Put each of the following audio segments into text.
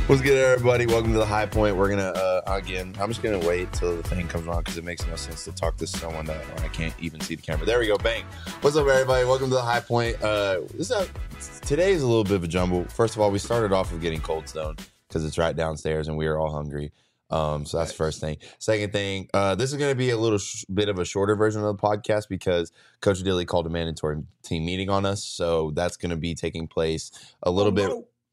What's good, everybody? Welcome to the High Point. We're gonna again. I'm just gonna wait till the thing comes on because it makes no sense to talk to someone that I can't even see the camera. There we go. Bang. What's up, everybody? Welcome to the High Point. Today is a little bit of a jumble. First of all, we started off with getting Cold Stone because it's right downstairs and we are all hungry. So that's the first thing. Second thing, this is going to be a little bit of a shorter version of the podcast because Coach Dilly called a mandatory team meeting on us. So that's going to be taking place a little bit.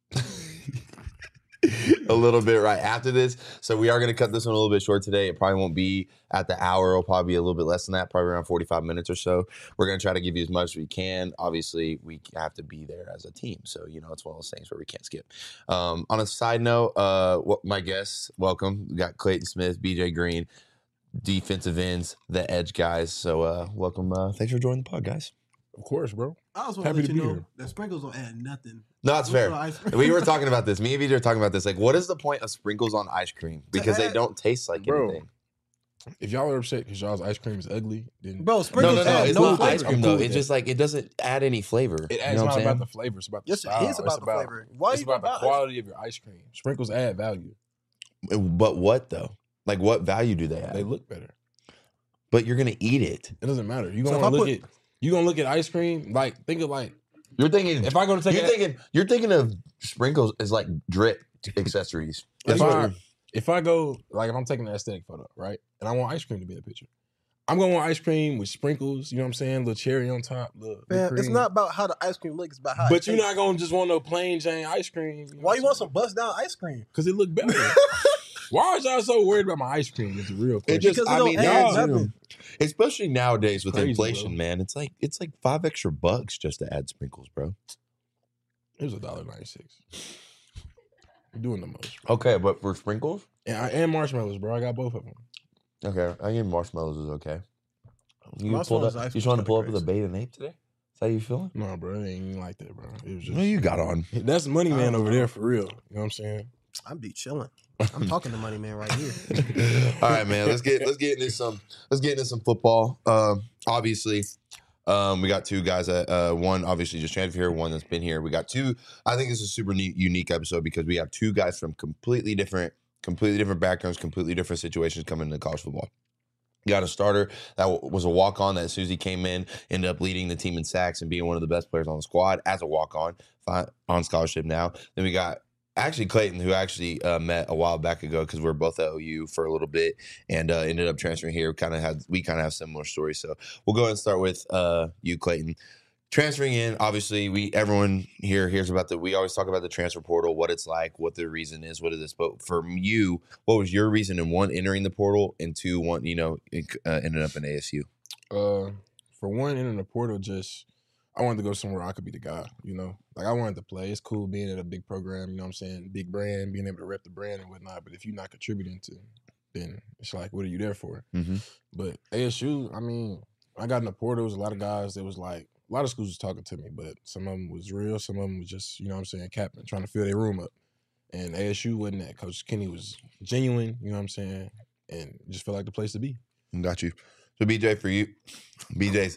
A little bit right after this. So we are going to cut this one a little bit short today. It probably won't be at the hour. It'll probably be a little bit less than that, probably around 45 minutes or so. We're going to try to give you as much as we can. Obviously, we have to be there as a team. So, it's one of those things where we can't skip. On a side note, my guests, welcome. We got Clayton Smith, BJ Green, defensive ends, the edge guys. So welcome. Thanks for joining the pod, guys. Of course, bro. I was happy to be here. That sprinkles don't add nothing. No, that's fair. We were talking about this. Me and BJ were talking about this. Like, what is the point of sprinkles on ice cream? Because they don't taste like anything. If y'all are upset because y'all's ice cream is ugly, then sprinkles no, it's not ice cream though. Cool It's just like it doesn't add any flavor. It adds not about the flavor. It's about the style. It is about the flavor. Why it's about the quality of your ice cream. Sprinkles add value. But what though? Like, what value do they add? They look better. But you're gonna eat it. It doesn't matter. You're gonna look at ice cream. Like, think of like you're thinking. If I go to take you're thinking of sprinkles as like drip accessories. If I go, like, if I'm taking an aesthetic photo, right, and I want ice cream to be in the picture, I'm gonna want ice cream with sprinkles. You know what I'm saying? Little cherry on top. Man, it's not about how the ice cream looks. It's about how. But you're not gonna just want no plain Jane ice cream. Why you want some bust down ice cream? Because it look better. Why are y'all so worried about my ice cream? It's a real question. Especially nowadays with Crazy, inflation, bro. man. It's like $5 extra just to add sprinkles, bro. It was $1.96. You're doing the most. Okay, but for sprinkles and marshmallows, bro. I got both of them. Okay, I think marshmallows is okay. You trying to pull up with a bait and ape today? Is that how you feeling? No, bro. It ain't even like that, bro. It was just. What you got on? That's Money Man over there for real. You know what I'm saying? I'm be chilling. I'm talking to Money Man right here. All right, man. Let's get into some football. Obviously, we got two guys that one obviously just transferred here, one that's been here. We got two. I think this is a super unique episode because we have two guys from completely different backgrounds, completely different situations coming into college football. You got a starter that was a walk-on that as soon as he came in, ended up leading the team in sacks and being one of the best players on the squad as a walk-on on scholarship now. Then we got actually Clayton, who actually met a while back ago because we were both at OU for a little bit and ended up transferring here. We kind of have similar stories. So we'll go ahead and start with you, Clayton. Transferring in, obviously, everyone here hears about we always talk about the transfer portal, what it's like, what the reason is, what it is. But for you, what was your reason in one, entering the portal, and two, ended up in ASU? For one, entering the portal, I wanted to go somewhere I could be the guy, Like, I wanted to play. It's cool being at a big program, you know what I'm saying? Big brand, being able to rep the brand and whatnot. But if you're not contributing then it's like, what are you there for? Mm-hmm. But ASU, I got in the portal. There was a lot of guys that was like, a lot of schools was talking to me, but some of them was real. Some of them was just, capping, trying to fill their room up. And ASU wasn't that. Coach Kenny was genuine, you know what I'm saying? And just felt like the place to be. Got you. So, BJ, for you, BJ's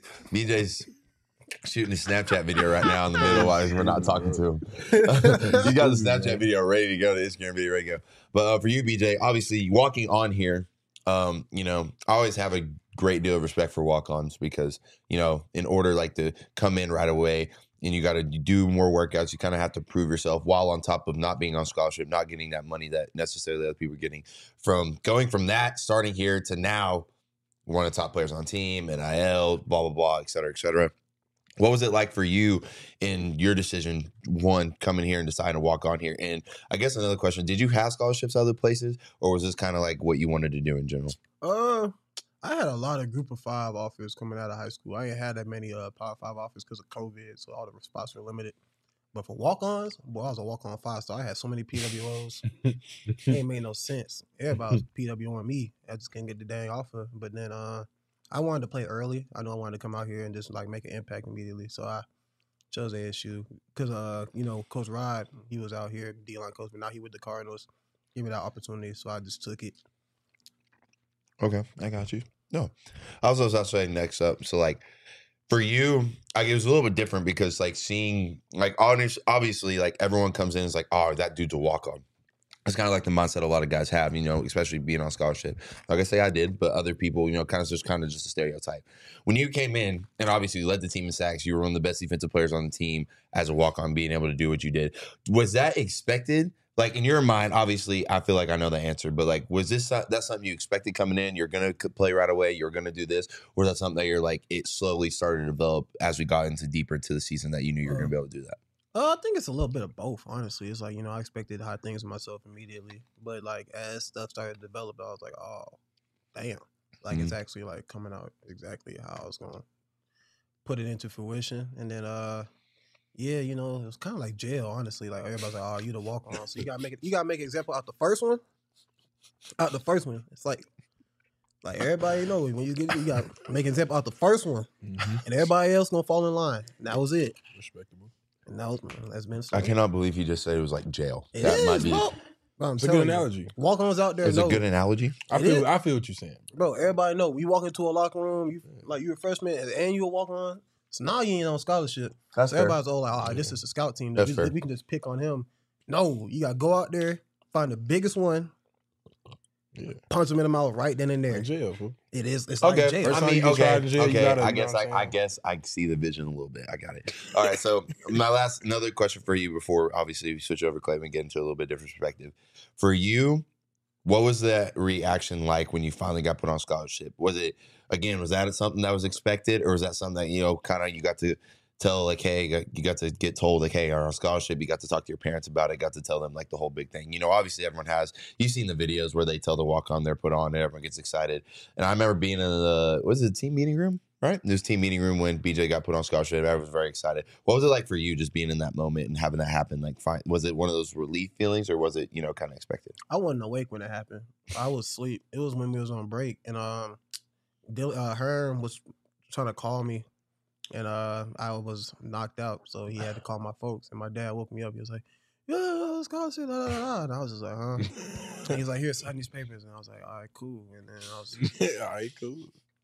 shooting a Snapchat video right now in the middle while we're not talking to him. You got the Snapchat video ready to go, the Instagram video ready to go. But for you, BJ, obviously walking on here, I always have a great deal of respect for walk-ons because, in order to come in right away and you got to do more workouts, you kind of have to prove yourself while on top of not being on scholarship, not getting that money that necessarily other people are getting. From going from that, starting here to now, one of the top players on the team, NIL, blah, blah, blah, et cetera, et cetera. What was it like for you in your decision, one, coming here and deciding to walk on here? And I guess another question, did you have scholarships other places, or was this kind of like what you wanted to do in general? I had a lot of group of 5 offers coming out of high school. I ain't had that many Power 5 offers because of COVID, so all the spots were limited. But for walk-ons, I was a walk-on 5-star. I had so many PWOs. It ain't made no sense. Everybody was PWOing me. I just couldn't get the dang offer. But then I wanted to play early. I know I wanted to come out here and just make an impact immediately. So I chose ASU because, Coach Rod, he was out here, D-line coach, but now he with the Cardinals. Give me that opportunity, so I just took it. Okay, I got you. No, I was also saying next up. So for you, it was a little bit different because seeing obviously everyone comes in and is like, oh, that dude's a walk on. It's kind of like the mindset a lot of guys have, especially being on scholarship. Like I say, I did, but other people, kind of just a stereotype. When you came in and obviously you led the team in sacks, you were one of the best defensive players on the team as a walk-on, being able to do what you did. Was that expected? Like in your mind, obviously, I feel like I know the answer, but like, was that's something you expected coming in? You're gonna play right away. You're gonna do this, or is that something that you're like it slowly started to develop as we got deeper into the season that you knew you were gonna be able to do that? I think it's a little bit of both, honestly. It's like, I expected high things of myself immediately. But, like, as stuff started to develop, I was like, oh, damn. Like, it's actually, like, coming out exactly how I was going to put it into fruition. And then, yeah, it was kind of like jail, honestly. Like, everybody's like, oh, you the walk-on. So, you got to make an example out the first one. It's like everybody know when you got to make an example out the first one. Mm-hmm. And everybody else going to fall in line. And that was it. Respectable. And that's been I cannot believe he just said it was like jail. Might be. It's a good analogy. Walk-ons out there. It's a good analogy. I feel what you're saying, bro. Everybody know. We walk into a locker room. You're a freshman and you a walk-on. So now you ain't on scholarship. That's so everybody's all like, this is a scout team. We can just pick on him. No, you gotta go out there, find the biggest one. Yeah. Punch him in the mouth right then and there. Like jail, fool. It is. It's like jail. I mean, okay. I guess I see the vision a little bit. I got it. All right. So another question for you before obviously we switch over, Clay, and get into a little bit different perspective. For you, what was that reaction like when you finally got put on scholarship? Was that something that was expected, or was that something that kind of you got to tell, like, hey, you got to get told, like, hey, you're on scholarship. You got to talk to your parents about it. Got to tell them, like, the whole big thing. Obviously everyone has. You've seen the videos where they tell the walk-on they're put on and everyone gets excited. And I remember being in the team meeting room, right? This team meeting room when BJ got put on scholarship. I was very excited. What was it like for you just being in that moment and having that happen? Like, was it one of those relief feelings, or was it, kind of expected? I wasn't awake when it happened. I was asleep. It was when we was on break. And Herm was trying to call me. And I was knocked out, so he had to call my folks. And my dad woke me up. He was like, "Yeah, let's go see." And I was just like, "Huh?" And he's like, "Here, sign these papers." And I was like, "All right, cool." And then I was like, "All right, cool."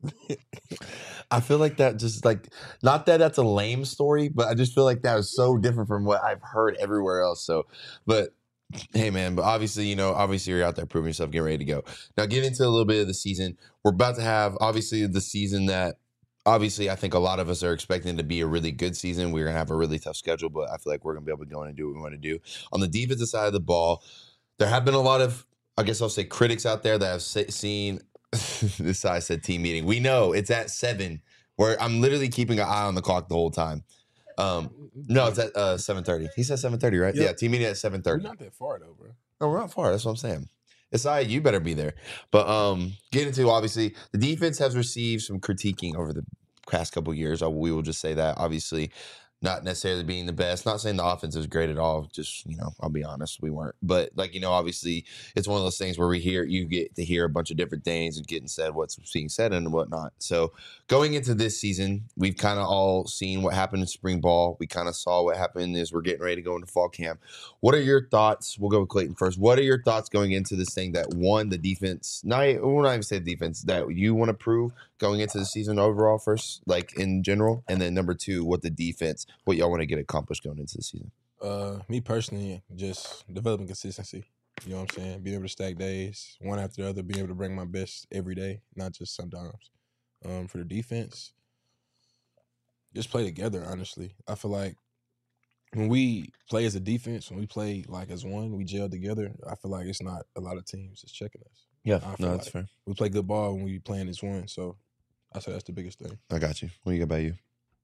I feel like that just like, not that that's a lame story, but I just feel like that was so different from what I've heard everywhere else. So, but hey, man, but obviously you're out there proving yourself, getting ready to go. Now, get into a little bit of the season. We're about to have, obviously, the season that, obviously, I think a lot of us are expecting to be a really good season. We're going to have a really tough schedule, but I feel like we're going to be able to go in and do what we want to do. On the defensive side of the ball, there have been a lot of, I guess I'll say, critics out there that have seen this side said team meeting. We know it's at 7, where I'm literally keeping an eye on the clock the whole time. No, it's at 7:30. He said 7:30, right? Yep. Yeah, team meeting at 7:30. We're not that far, though, bro. No, we're not far. That's what I'm saying. It's all right, you better be there. But get into, obviously, the defense has received some critiquing over the past couple of years. We will just say that, obviously, not necessarily being the best. Not saying the offense is great at all. Just, I'll be honest, we weren't. But, obviously, it's one of those things where you get to hear a bunch of different things and getting said what's being said and whatnot. So, going into this season, we've kind of all seen what happened in spring ball. We kind of saw what happened as we're getting ready to go into fall camp. What are your thoughts? We'll go with Clayton first. What are your thoughts going into this thing that, one, the defense, we'll not even say the defense, that you want to prove going into the season overall first, like in general? And then number 2, what y'all want to get accomplished going into the season? Me personally, just developing consistency. You know what I'm saying? Being able to stack days, one after the other, being able to bring my best every day, not just sometimes. For the defense, just play together, honestly. I feel like when we play as a defense, when we play like as one, we gel together, I feel like it's not a lot of teams that's checking us. Yeah, no, that's fair. We play good ball when we playing as one, so I say that's the biggest thing. I got you. What do you got about you?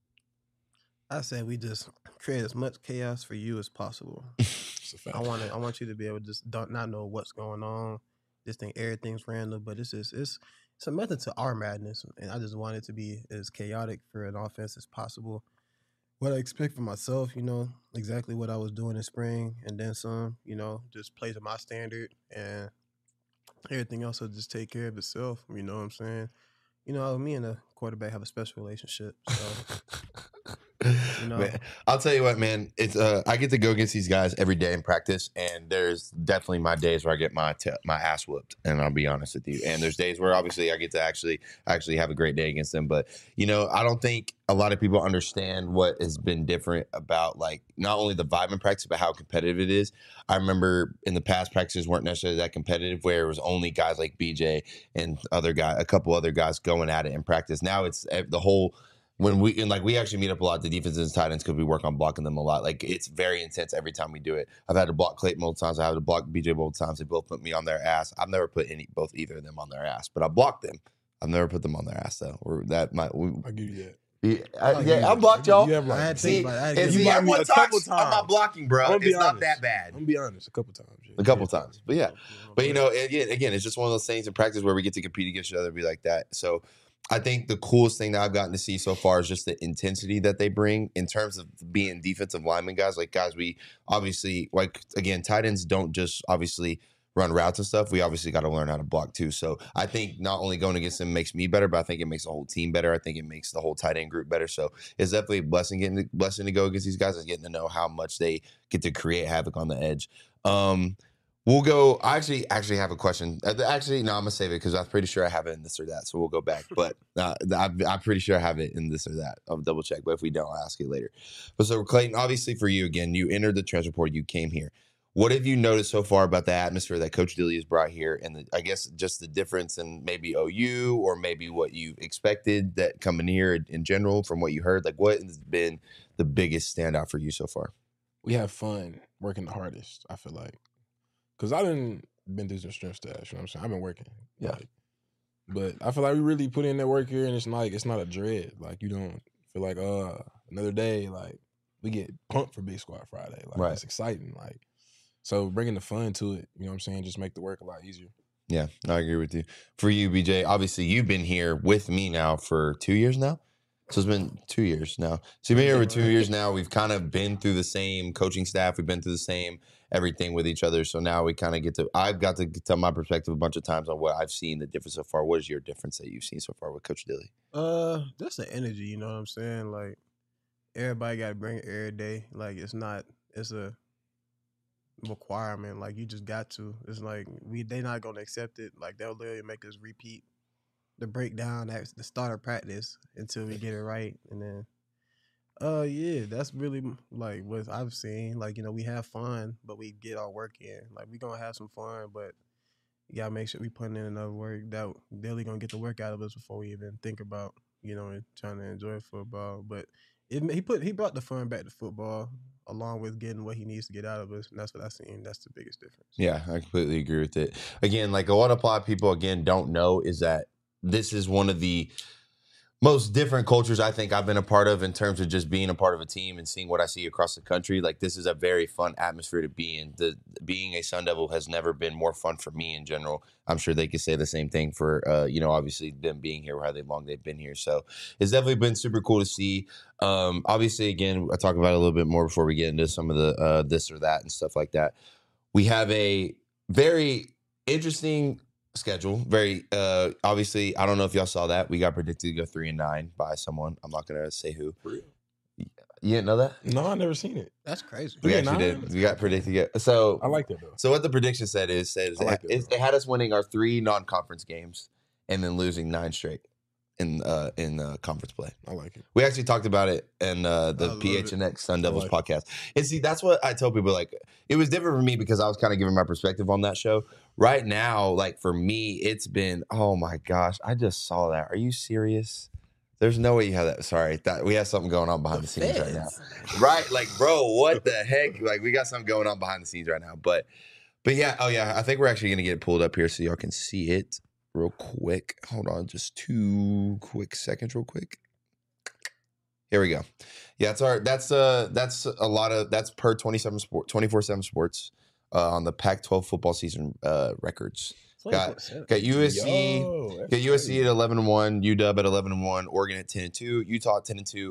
I said we just create as much chaos for you as possible. I want you to be able to just not know what's going on. Just think everything's random, but it's a method to our madness, and I just want it to be as chaotic for an offense as possible. What I expect from myself, exactly what I was doing in spring, and then some. Just play to my standard, and everything else will just take care of itself. You know what I'm saying? Me and the quarterback have a special relationship, so. You know, Man, I'll tell you what, man. It's I get to go against these guys every day in practice, and there's definitely my days where I get my ass whooped, and I'll be honest with you. And there's days where obviously I get to actually have a great day against them. But I don't think a lot of people understand what has been different about like not only the vibe in practice, but how competitive it is. I remember in the past practices weren't necessarily that competitive, where it was only guys like BJ and a couple other guys going at it in practice. Now it's the whole. When we actually meet up a lot, the defenses and tight ends, because we work on blocking them a lot. Like it's very intense every time we do it. I've had to block Clayton multiple times. I had to block BJ multiple times. They both put me on their ass. I've never put either of them on their ass, but I blocked them. I've never put them on their ass though. I'll give you that. I blocked y'all. You have I had to think about it. I had to And think see, about it. everyone a couple talks about times. blocking, bro. I'm gonna be It's not honest. that bad. I'm gonna be honest, a couple times. Yeah. A couple times, but yeah. But again, it's just one of those things in practice where we get to compete against each other and be like that. So I think the coolest thing that I've gotten to see so far is just the intensity that they bring in terms of being defensive lineman guys. Like guys, we obviously again, tight ends don't just obviously run routes and stuff. We obviously got to learn how to block too. So I think not only going against them makes me better, but I think it makes the whole team better. I think it makes the whole tight end group better. So it's definitely a blessing to go against these guys, is getting to know how much they get to create havoc on the edge. We'll go. I actually have a question. Actually, no, I'm gonna save it because I'm pretty sure I have it in this or that. So we'll go back. But I'm pretty sure I have it in this or that. I'll double check. But if we don't, I'll ask you later. But so Clayton, obviously for you again, you entered the transfer portal. You came here. What have you noticed so far about the atmosphere that Coach Dilly has brought here, and I guess just the difference in maybe OU or maybe what you expected that coming here in general from what you heard? Like, what has been the biggest standout for you so far? We have fun working the hardest, I feel like. Because I didn't been through some strength stash, you know what I'm saying? I've been working. Yeah. Like, but I feel like we really put in that work here, and it's not a dread. Like, you don't feel like, another day, like, we get pumped for Big Squad Friday. Like, Right. It's exciting. Like, so bringing the fun to it, you know what I'm saying, just make the work a lot easier. Yeah, I agree with you. For you, BJ, obviously you've been here with me now for 2 years now. So it's been 2 years now. So you've been here for 2 years now. We've kind of been through the same coaching staff. We've been through the same everything with each other. So now we kind of I've got to tell my perspective a bunch of times on what I've seen, the difference so far. What is your difference that you've seen so far with Coach Dilly? That's the energy, you know what I'm saying? Like, everybody got to bring it every day. Like, it's a requirement. Like, you just got to. It's like, they not going to accept it. Like, they'll literally make us repeat the breakdown at the start of practice until we get it right. And then, yeah, that's really like what I've seen. Like, we have fun, but we get our work in. Like, we going to have some fun, but you got to make sure we putting in enough work that they're going to get the work out of us before we even think about, trying to enjoy football. But he brought the fun back to football, along with getting what he needs to get out of us. And that's what I've seen. That's the biggest difference. Yeah, I completely agree with it. Again, like a lot of people, again, don't know is that this is one of the most different cultures I think I've been a part of in terms of just being a part of a team and seeing what I see across the country. Like, this is a very fun atmosphere to be in. Being a Sun Devil has never been more fun for me in general. I'm sure they could say the same thing for, obviously them being here, how long they've been here. So it's definitely been super cool to see. Obviously, again, I talk about it a little bit more before we get into some of the this or that and stuff like that. We have a very interesting schedule. Very obviously, I don't know if y'all saw that. We got predicted to go 3-9 by someone. I'm not gonna say who. For real? You didn't know that? No, I never seen it. That's crazy. We actually 3-9? did. We got predicted to get. So I like that, though. So what the prediction said I like that, it had us winning our 3 non-conference games and then losing 9 straight in conference play. I like it. We actually talked about it in the love PHNX Sun Devils like podcast. And see, that's what I tell people. Like, it was different for me because I was kind of giving my perspective on that show. Right now, like for me, it's been, oh my gosh, I just saw that. Are you serious? There's no way you have that. Sorry, we have something going on behind the scenes right now. Right? Like, bro, what the heck? Like, we got something going on behind the scenes right now. But yeah, oh yeah, I think we're actually gonna get it pulled up here so y'all can see it real quick. Hold on, just 2 quick seconds, real quick. Here we go. Yeah, that's a lot of that's per 24/7 Sports on the Pac-12 football season records. Got USC. Got USC at 11-1, UW at 11-1, Oregon at 10-2, Utah at 10-2,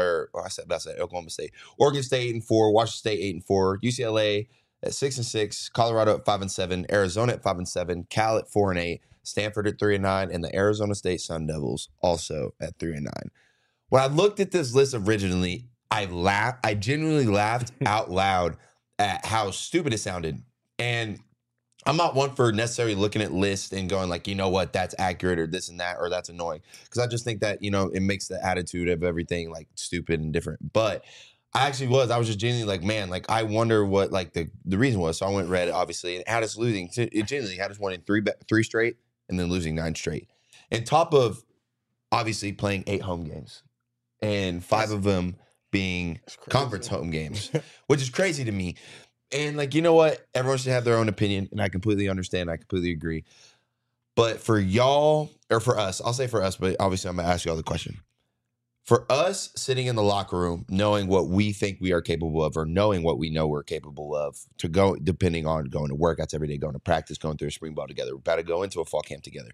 Oklahoma State, Oregon State 8-4, Washington State 8-4, UCLA at 6-6, Colorado at 5-7, Arizona at 5-7, Cal at 4-8, Stanford at 3-9, and the Arizona State Sun Devils also at 3-9. When I looked at this list originally, I genuinely laughed out loud at how stupid it sounded. And I'm not one for necessarily looking at lists and going like, you know what, that's accurate or this and that or that's annoying. Because I just think that, it makes the attitude of everything like stupid and different. But I was just genuinely like, man, like I wonder what like the reason was. So I went and read it, obviously, and it had us losing. It genuinely had us winning three straight and then losing 9 straight. And top of obviously playing 8 home games and 5 of them being conference home games, which is crazy to me. And like, you know what? Everyone should have their own opinion, and I completely understand. I completely agree. But for y'all, or for us, I'll say for us, but obviously I'm going to ask y'all the question. For us sitting in the locker room, knowing what we think we are capable of, or knowing what we know we're capable of, to go, depending on going to workouts every day, going to practice, going through a spring ball together, we're about to go into a fall camp together.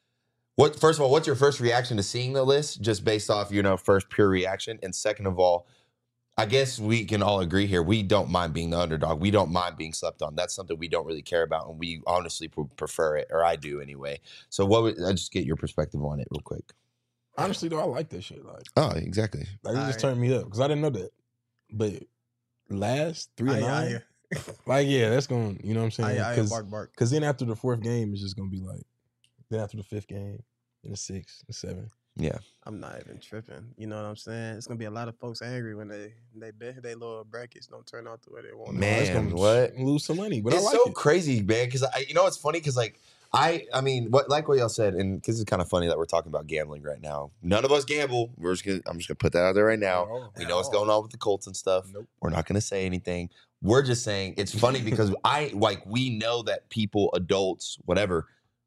First of all, what's your first reaction to seeing the list, just based off, first pure reaction? And second of all, I guess we can all agree here, we don't mind being the underdog. We don't mind being slept on. That's something we don't really care about, and we honestly prefer it, or I do anyway. So I just get your perspective on it real quick. Honestly, though, I like that shit. Like, oh, exactly. Like, it just turned me up because I didn't know that. But last 3 and 9, like, yeah, that's going, you know what I'm saying? Because then after the 4th game, it's just going to be like, then after the 5th game, and the 6th, the 7th. Yeah. I'm not even tripping. You know what I'm saying? It's gonna be a lot of folks angry when they bet their little brackets don't turn out the way they want. Man, it's gonna what? Lose some money, but it's I like so it. crazy, man. Because it's funny because like I mean, what y'all said, and because it's kind of funny that we're talking about gambling right now. None of us gamble. I'm just gonna put that out there right now. We know what's going on with the Colts and stuff. Nope. We're not gonna say anything. We're just saying it's funny because we know that people, adults, whatever,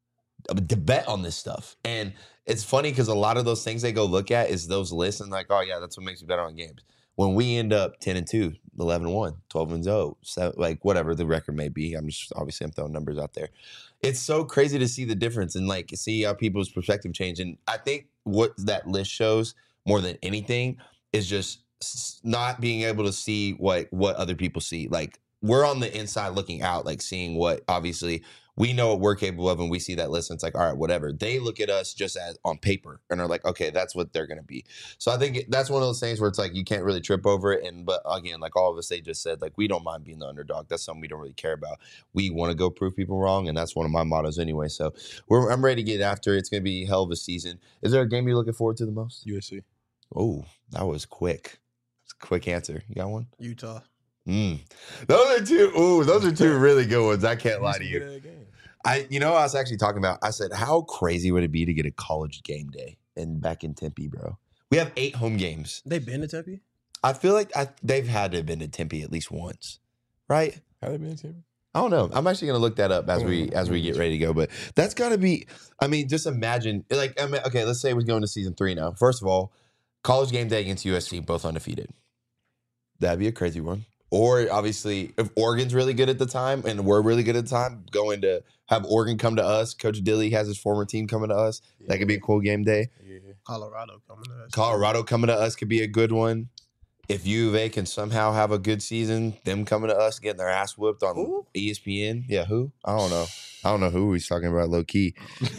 to bet on this stuff. And it's funny because a lot of those things they go look at is those lists and like, oh yeah, that's what makes me bet on games. When we end up 10-2, 11-1, 12-0, so like whatever the record may be, I'm throwing numbers out there. It's so crazy to see the difference and like see how people's perspective change. And I think what that list shows more than anything is just not being able to see what other people see. Like we're on the inside looking out, like seeing what obviously we know what we're capable of, and we see that list, and it's like, all right, whatever. They look at us just as on paper and are like, okay, that's what they're going to be. So I think that's one of those things where it's like you can't really trip over it. But again, like all of us, they just said, like, we don't mind being the underdog. That's something we don't really care about. We want to go prove people wrong, and that's one of my mottos anyway. So I'm ready to get after it. It's going to be a hell of a season. Is there a game you're looking forward to the most? USC. Oh, that was quick. It's a quick answer. You got one? Utah. Those are two really good ones. I can't lie to you. I was actually talking about, I said, how crazy would it be to get a college game day back in Tempe, bro? We have 8 home games. They've been to Tempe? I feel like they've had to have been to Tempe at least once, right? Have they been to Tempe? I don't know. I'm actually going to look that up as we get ready to go. But that's got to be, I mean, just imagine, like, okay, let's say we're going to season 3 now. First of all, college game day against USC, both undefeated. That'd be a crazy one. Or obviously, if Oregon's really good at the time and we're really good at the time, going to have Oregon come to us. Coach Dilly has his former team coming to us. Yeah. That could be a cool game day. Yeah. Colorado coming to us could be a good one. If U of A can somehow have a good season, them coming to us, getting their ass whooped on ESPN. Yeah, who? I don't know. I don't know who he's talking about low key.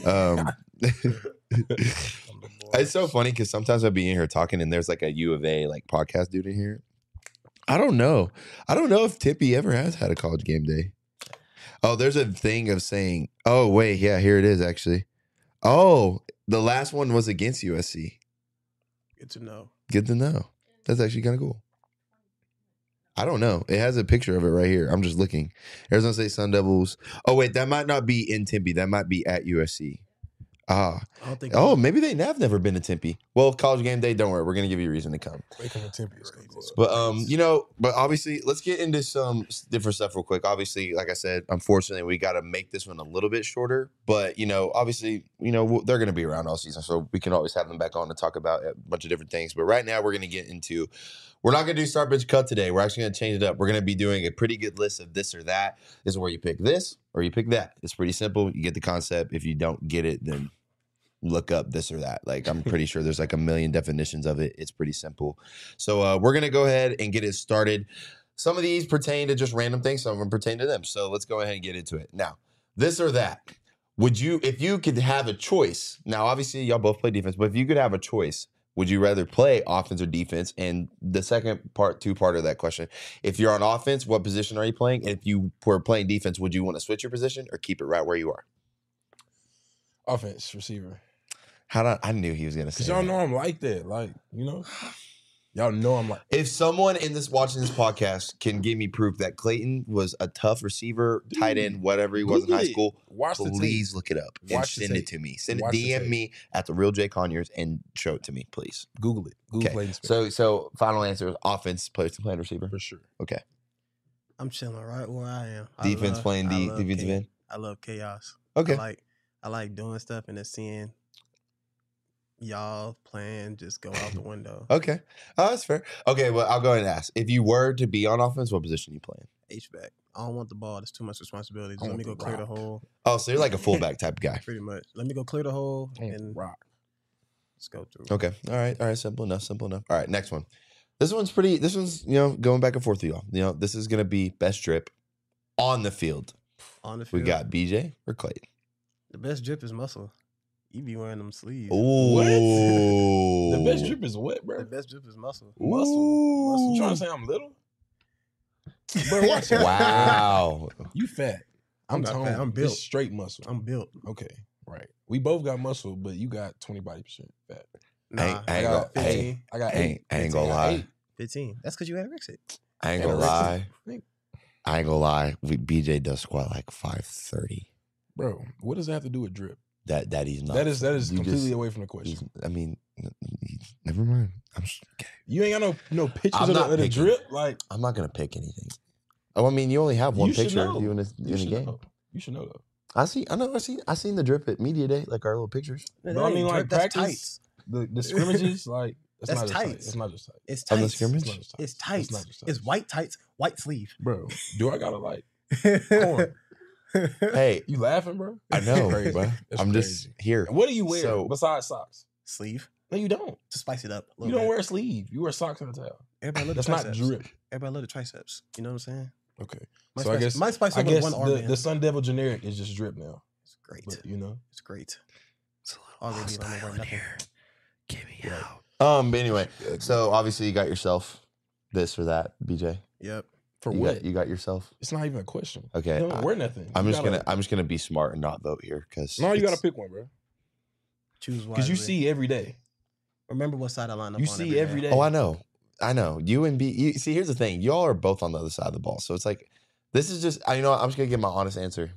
It's so funny because sometimes I'll be in here talking and there's like a U of A like podcast dude in here. I don't know if Tempe ever has had a college game day. Oh, there's a thing of saying, oh, wait, yeah, here it is, actually. Oh, the last one was against USC. Good to know. That's actually kind of cool. I don't know. It has a picture of it right here. I'm just looking. Arizona State Sun Devils. Oh, wait, that might not be in Tempe. That might be at USC. Maybe they have never been to Tempe. Well, college game day, don't worry. We're going to give you a reason to come. They come to Tempe. But, but obviously, let's get into some different stuff real quick. Obviously, like I said, unfortunately, we got to make this one a little bit shorter. But, obviously, they're going to be around all season. So we can always have them back on to talk about a bunch of different things. But right now, we're going to get into, we're not going to do start, bench, cut today. We're actually going to change it up. We're going to be doing a pretty good list of this or that. This is where you pick this or you pick that. It's pretty simple. You get the concept. If you don't get it, then look up this or that. Like, I'm pretty sure there's like a million definitions of it. It's pretty simple. So we're going to go ahead and get it started. Some of these pertain to just random things. Some of them pertain to them. So let's go ahead and get into it. Now, this or that. If you could have a choice, now obviously y'all both play defense, but if you could have a choice Would you rather play offense or defense? And the second part, two-part of that question, if you're on offense, what position are you playing? And if you were playing defense, would you want to switch your position or keep it right where you are? Offense, receiver. I knew he was going to say Because y'all that. know I'm like that. Like, y'all know I'm like. If someone in this watching this podcast can give me proof that Clayton was a tough receiver, tight end, whatever he was in Google high it. school, Watch the please tape. look it up and Watch the send it tape. to me. Send Watch the DM tape. me at the real Jay Conyers and show it to me, please. Google it. Google Okay. Clayton Smith. So final answer is offense plays to playing receiver. For sure. Okay. I'm chilling right where I am. Defense playing I love defensive end. I love chaos. Okay. I like doing stuff and then seeing y'all playing just go out the window. Okay. Oh, that's fair. Okay, well, I'll go ahead and ask. If you were to be on offense, what position you playing? H-back. I don't want the ball. There's too much responsibility. Just I let me go want the clear the rock. hole. Oh, so you're like a fullback type of guy. Pretty much. Let me go clear the hole I want the and rock. let's go through. Okay. All right. Simple enough. All right, next one. This one's going back and forth with y'all. This is going to be best drip on the field. On the We field. got BJ or Clayton. The best drip is muscle. You be wearing them sleeves. Ooh. The best drip is what, bro? The best drip is muscle. Muscle. You trying to say I'm little? Bro, watch it. Wow. You fat. I'm not toned. fat. I'm Just built. straight muscle. I'm built. Okay, right. We both got muscle, but you got 20 body percent fat. Nah, I ain't I gonna- got 15. hey. I got I 8. ain't gonna lie. 15. That's because you had Rexit. I ain't gonna lie. BJ does squat like 530. Bro, what does that have to do with drip? That he's not. That is You completely just- away from the question. Never mind. Okay. You ain't got no pictures I'm of not the picking. drip. Like, I'm not gonna pick anything. Oh, I mean, you only have one you should picture know. of you in a should game. know. You should know though. I seen the drip at media day, like our little pictures. But I mean, like that's practice, the scrimmages, like That's not just tight. tights. It's not just tight. It's On the tights. scrimmage? It's not just tight. It's tights. It's not just It's tights. white tights, white sleeve. Bro, do I gotta like Corn. Hey, you laughing, bro? I know, Crazy. bro. That's I'm just crazy. here. What do you wear So- besides socks? Sleeve No, you don't. to spice it up. A You little don't bit. wear a sleeve. You wear socks and a towel. Everybody love the That's not triceps. drip. Everybody love the triceps. You know what I'm saying? Okay. My So I guess my spice I up with guess one arm. the Sun Devil generic is just drip now. It's great. But you know, It's great. It's a little Already don't hostile wear in nothing. here. Get me Right. out. But anyway, so obviously you got yourself this or that, BJ. Yep. for you what? Got, you got yourself. It's not even a question. Okay. You don't wear nothing. I'm You just gotta- gonna be smart and not vote here because No, you gotta pick one, bro. Choose wisely. Because you see every day. Remember what side I line up You on see every day. Oh, I know. You and B. You see, here's the thing. Y'all are both on the other side of the ball, so it's like this is just. I'm just gonna give my honest answer,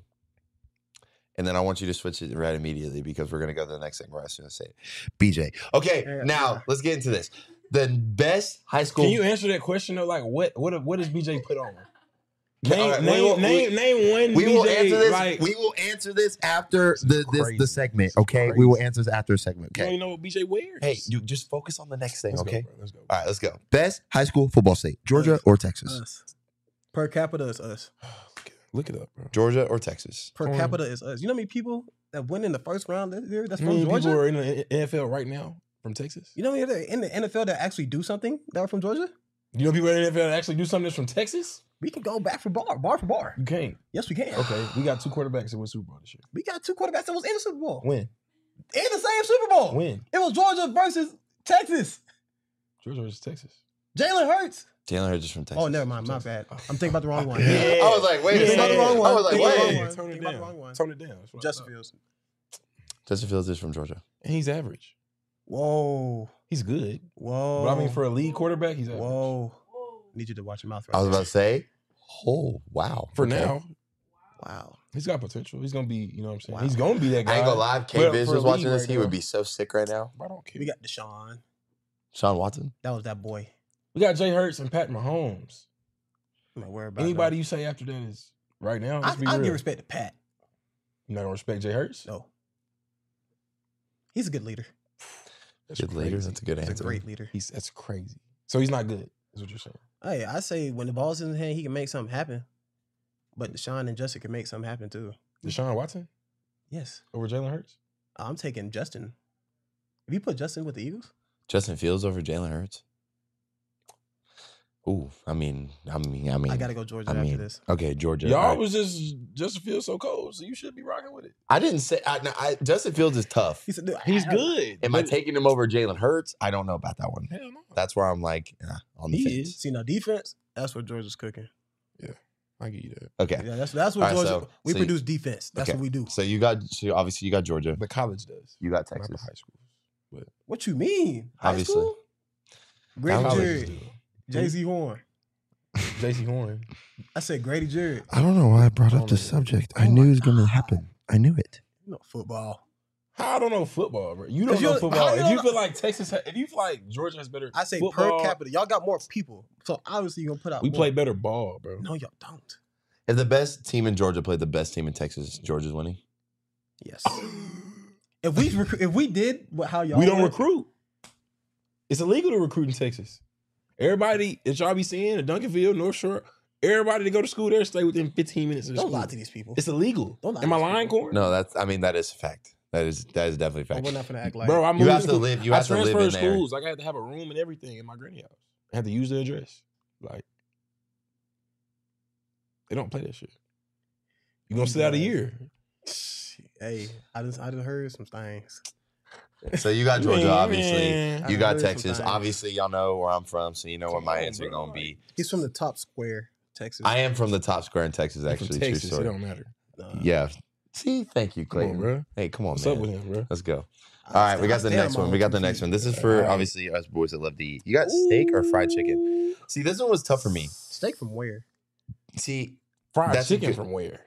and then I want you to switch it right immediately because we're gonna go to the next thing where I was gonna say it. BJ. Okay, Yeah, now yeah. let's get into this. The best high school. Can you answer that question though? Like, what does BJ put on? Okay, all right, we will- Name one. We BJ, will answer this. Like, We will answer this after the crazy. segment. This is Okay, we will crazy. answer this after a segment. You don't Okay. even know what BJ wears. Hey, you just focus on the next thing. Let's Okay. Go, bro. Let's go. All right, let's go. Best high school football state: Georgia or Texas? Us. Per capita is us. Look it up, bro. Georgia or Texas? Per Come on. capita is us. You know how many people that went in the first round this year that's How from many people Georgia? are in the NFL right now from Texas? You know how many that in the NFL that actually do something that are from Georgia? You know people in the NFL that actually do something that's from Texas? We can go back for bar for bar. You can't. Yes, we can. Okay, we got 2 quarterbacks that won Super Bowl this year. We got 2 quarterbacks that was in the Super Bowl. When? In the same Super Bowl. When? It was Georgia versus Texas. Georgia versus Texas. Jalen Hurts. Jalen Hurts is from Texas. Oh, never mind. My bad. I'm thinking about the wrong one. Yeah. I was like, wait a Think about second. the wrong one. I was like, Think about the wait. wrong one. Tone it Think about the down. wrong one. Tone it down. That's what I Justin thought. Fields. Justin Fields is from Georgia. And he's average. Whoa. He's good. Whoa. But I mean, for a league quarterback, he's average. Whoa. Need you to watch your mouth right I was there. about to say, oh wow. For Okay. now, Wow. he's got potential. He's gonna be, you know what I'm saying? Wow. He's gonna be that guy. I ain't gonna lie. K But Biz for was a watching league this. right He now- would be so sick right now. I don't care. We got Deshaun. Sean Watson. That was that boy. We got Jay Hurts and Pat Mahomes. I'm not worried about Anybody you say after that is right now. Let's be I real. give respect to Pat. You not gonna respect Jay Hurts? No. He's a good leader. That's Good leader. crazy. That's a good He's answer. a great leader. That's crazy. So he's not good. Is what you're saying? Hey, I say when the ball's in his hand, he can make something happen. But Deshaun and Justin can make something happen too. Deshaun Watson Yes. over Jalen Hurts? I'm taking Justin. If you put Justin with the Eagles, Justin Fields over Jalen Hurts. Ooh, I mean. I gotta go Georgia after this. Okay, Georgia. Y'all all right. was just Justin Fields so cold, so you should be rocking with it. I didn't say. Justin Fields is tough. He said, "Dude, He's I- good. Am I but- taking him over Jalen Hurts? I don't know about that one. Hell no. That's where I'm like on the He fence. is. See now defense. That's what Georgia's cooking. I give you that. Okay, Yeah, that's what All right, Georgia. We so produce defense. That's okay. what we do. so obviously you got Georgia. But college does. You got Not the Texas. high schools. What you mean? High Obviously. school? Grady College Jarrett, do. Jay-Z Horn. J.C. Horn. I said Grady Jarrett. I don't know why I brought up this subject. I knew it was gonna happen. I knew it. You know football. How I don't know football, bro. You don't 'Cause know how football. you If you don't feel like if you feel like Georgia has better I say football, per capita. Y'all got more people, so obviously you're gonna put out. we more. play better ball, bro. No, y'all don't. If the best team in Georgia played the best team in Texas, Georgia's winning. Yes. if we did how y'all We don't went, recruit. It's illegal to recruit in Texas. Everybody that y'all be seeing at Duncanville, North Shore, everybody that go to school there stay within 15 minutes of the Don't school. lie to these people. It's illegal. Don't lie Am to I these lying, people. Corn? No, that is a fact. That is definitely a But fact. we're not gonna act like Bro, I You moved have to school. live. You I have to live in transferred there. schools. Like I had to have a room and everything in my granny house. I had to use the address. Like they don't play that shit. You gonna sit out a year? Hey, I just heard some things. So you got Georgia, obviously. Man. You I got heard some Texas. things. Obviously, y'all know where I'm from, so you know what Come my on, answer bro. gonna be. He's from the top square, Texas. I am from the top square in Texas, From actually. Texas, True it story. don't matter. Yeah. See, thank you, Come on, Clayton. bro. Hey, come on, What's man. up with him, bro? Let's go. All right, we got the next one. We got the next one. This is for Alright. obviously us boys that love to eat. You got steak or fried chicken? See, this one was tough for me. Steak from where? See, Fried That's a chicken good- from where?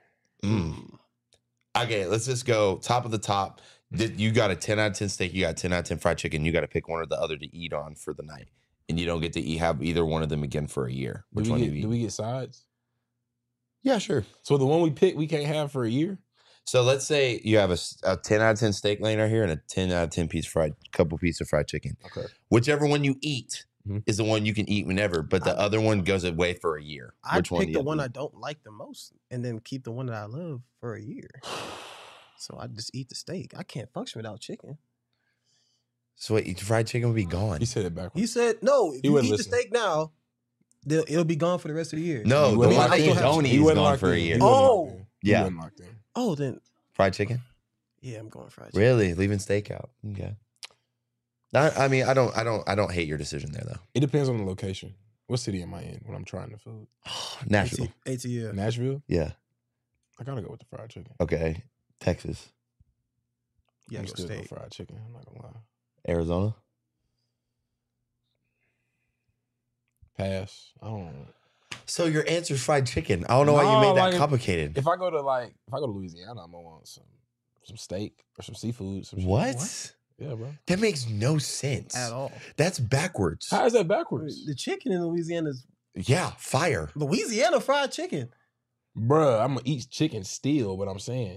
okay, let's just go top of the top. You got a 10 out of 10 steak. You got 10 out of 10 fried chicken. You got to pick one or the other to eat on for the night, and you don't get to have either one of them again for a year. Which one do you eat? Do we get sides? Yeah, sure. So the one we pick, we can't have for a year. So let's say you have a 10 out of 10 steak laying right here and a 10 out of 10 couple pieces of fried chicken. Okay. Whichever one you eat Mhm. is the one you can eat whenever, but the other one goes away for a year. I Which one? pick do the you one eat? I don't like the most, and then keep the one that I love for a year. So I just eat the steak. I can't function without chicken. So wait, fried chicken would be gone. He said it backwards. He said, "No, if He you wouldn't eat the listen. steak now, it'll be gone for the rest of the year." No, He the wasn't one locked that you in. don't eat He is wasn't gone locked for a in. He year. wasn't Oh. locked in. He Yeah. wasn't locked in. Oh, then Fried chicken? yeah, I'm going fried chicken. Really? Leaving steak out? Okay. I mean, I don't hate your decision there though. It depends on the location. What city am I in when I'm trying the food? Nashville. ATL. Nashville? Yeah. I gotta go with the fried chicken. Okay. Texas. Yeah, I'm go still go steak. fried chicken. I'm not gonna lie. Arizona. Pass. I don't. So your answer's fried chicken. I don't know why you No, made that like, complicated. If I go to Louisiana, I'm gonna want some steak or some seafood. Some shit. What? Yeah, bro. That makes no sense At all. That's backwards. How is that backwards, The chicken in Louisiana is Yeah, fire. Louisiana fried chicken. Bruh, I'm gonna eat chicken still. But I'm saying,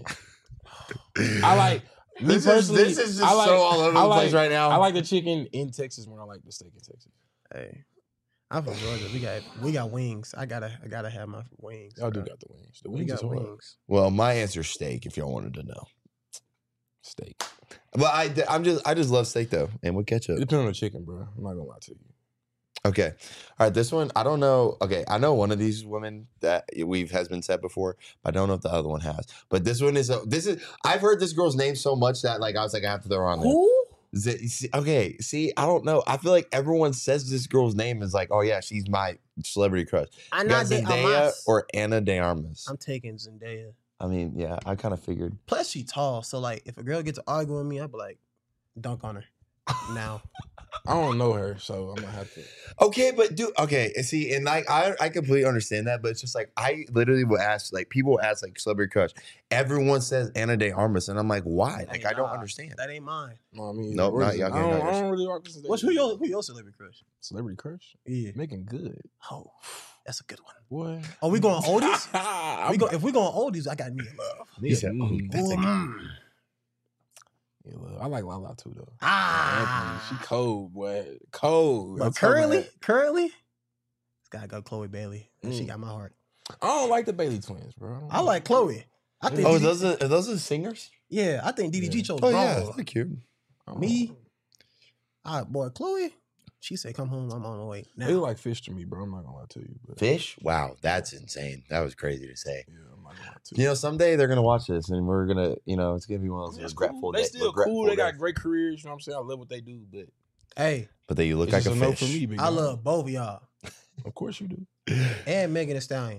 I like me personally. this is just I like, so all over I the like, place right now. I like the chicken in Texas more than I like the steak in Texas. Hey, I'm from Georgia. We got wings. I gotta have my wings. Y'all do bro. got the wings. The We wings got is hard. wings. Well, my answer's steak. If y'all wanted to know, Steak. but I just love steak though, and with ketchup. It depends on the chicken, bro. I'm not gonna lie to you. Okay, all right. This one I don't know. Okay, I know one of these women that has been said before, but I don't know if the other one has. But this one is I've heard this girl's name so much that like I was like I have to throw her on there. Who? Okay, see, I don't know. I feel like everyone says this girl's name is like, oh yeah, she's my celebrity crush. You Ana got de Zendaya Armas. or Ana de Armas. I'm taking Zendaya. I mean, yeah, I kind of figured. Plus, she tall, so like if a girl gets to argue with me, I'd be like, dunk on her now. I don't know her, so I'm gonna have to. Okay, but dude, okay, and see, and like I completely understand that, but it's just like I literally will ask, like people will ask, like celebrity crush. Everyone says Ana de Armas, and I'm like, why? Like Hey, I don't nah, understand. That ain't mine. No, I mean, Nope, where's not it? y'all I getting don't, nuggets. I don't really rock this. Who your celebrity crush? Celebrity crush? Yeah. Making good, Oh, that's a good one. boy. Are we going oldies? I'm If we going oldies, I got Nia Love. He said, oh, that's a Mm. Yeah, look, I like Lala too, though. Ah. Anthony, she cold, boy. Cold. But I'm talking currently, it's gotta go Chloe Bailey. She Mm. got my heart. I don't like the Bailey twins, bro. I like Chloe. I think. Oh, DDG are those the singers? yeah, I think DDG Yeah. chose Oh wrong. yeah, they're cute. I don't- Me? Boy, Chloe, She said, "Come home. I'm on the way now." They look like fish to me, bro. I'm not gonna lie to you. But Fish? Wow, that's insane. That was crazy to say. yeah, I'm not gonna lie to You know, someday they're gonna watch this, and we're gonna, it's gonna be one of those That's regretful cool. They days. still cool. They got great careers. You know what I'm saying? I love what they do, but Hey, But then you look it's like just a no fish. for me. Big I dog. love both of y'all Of course you do. and Megan Thee Stallion.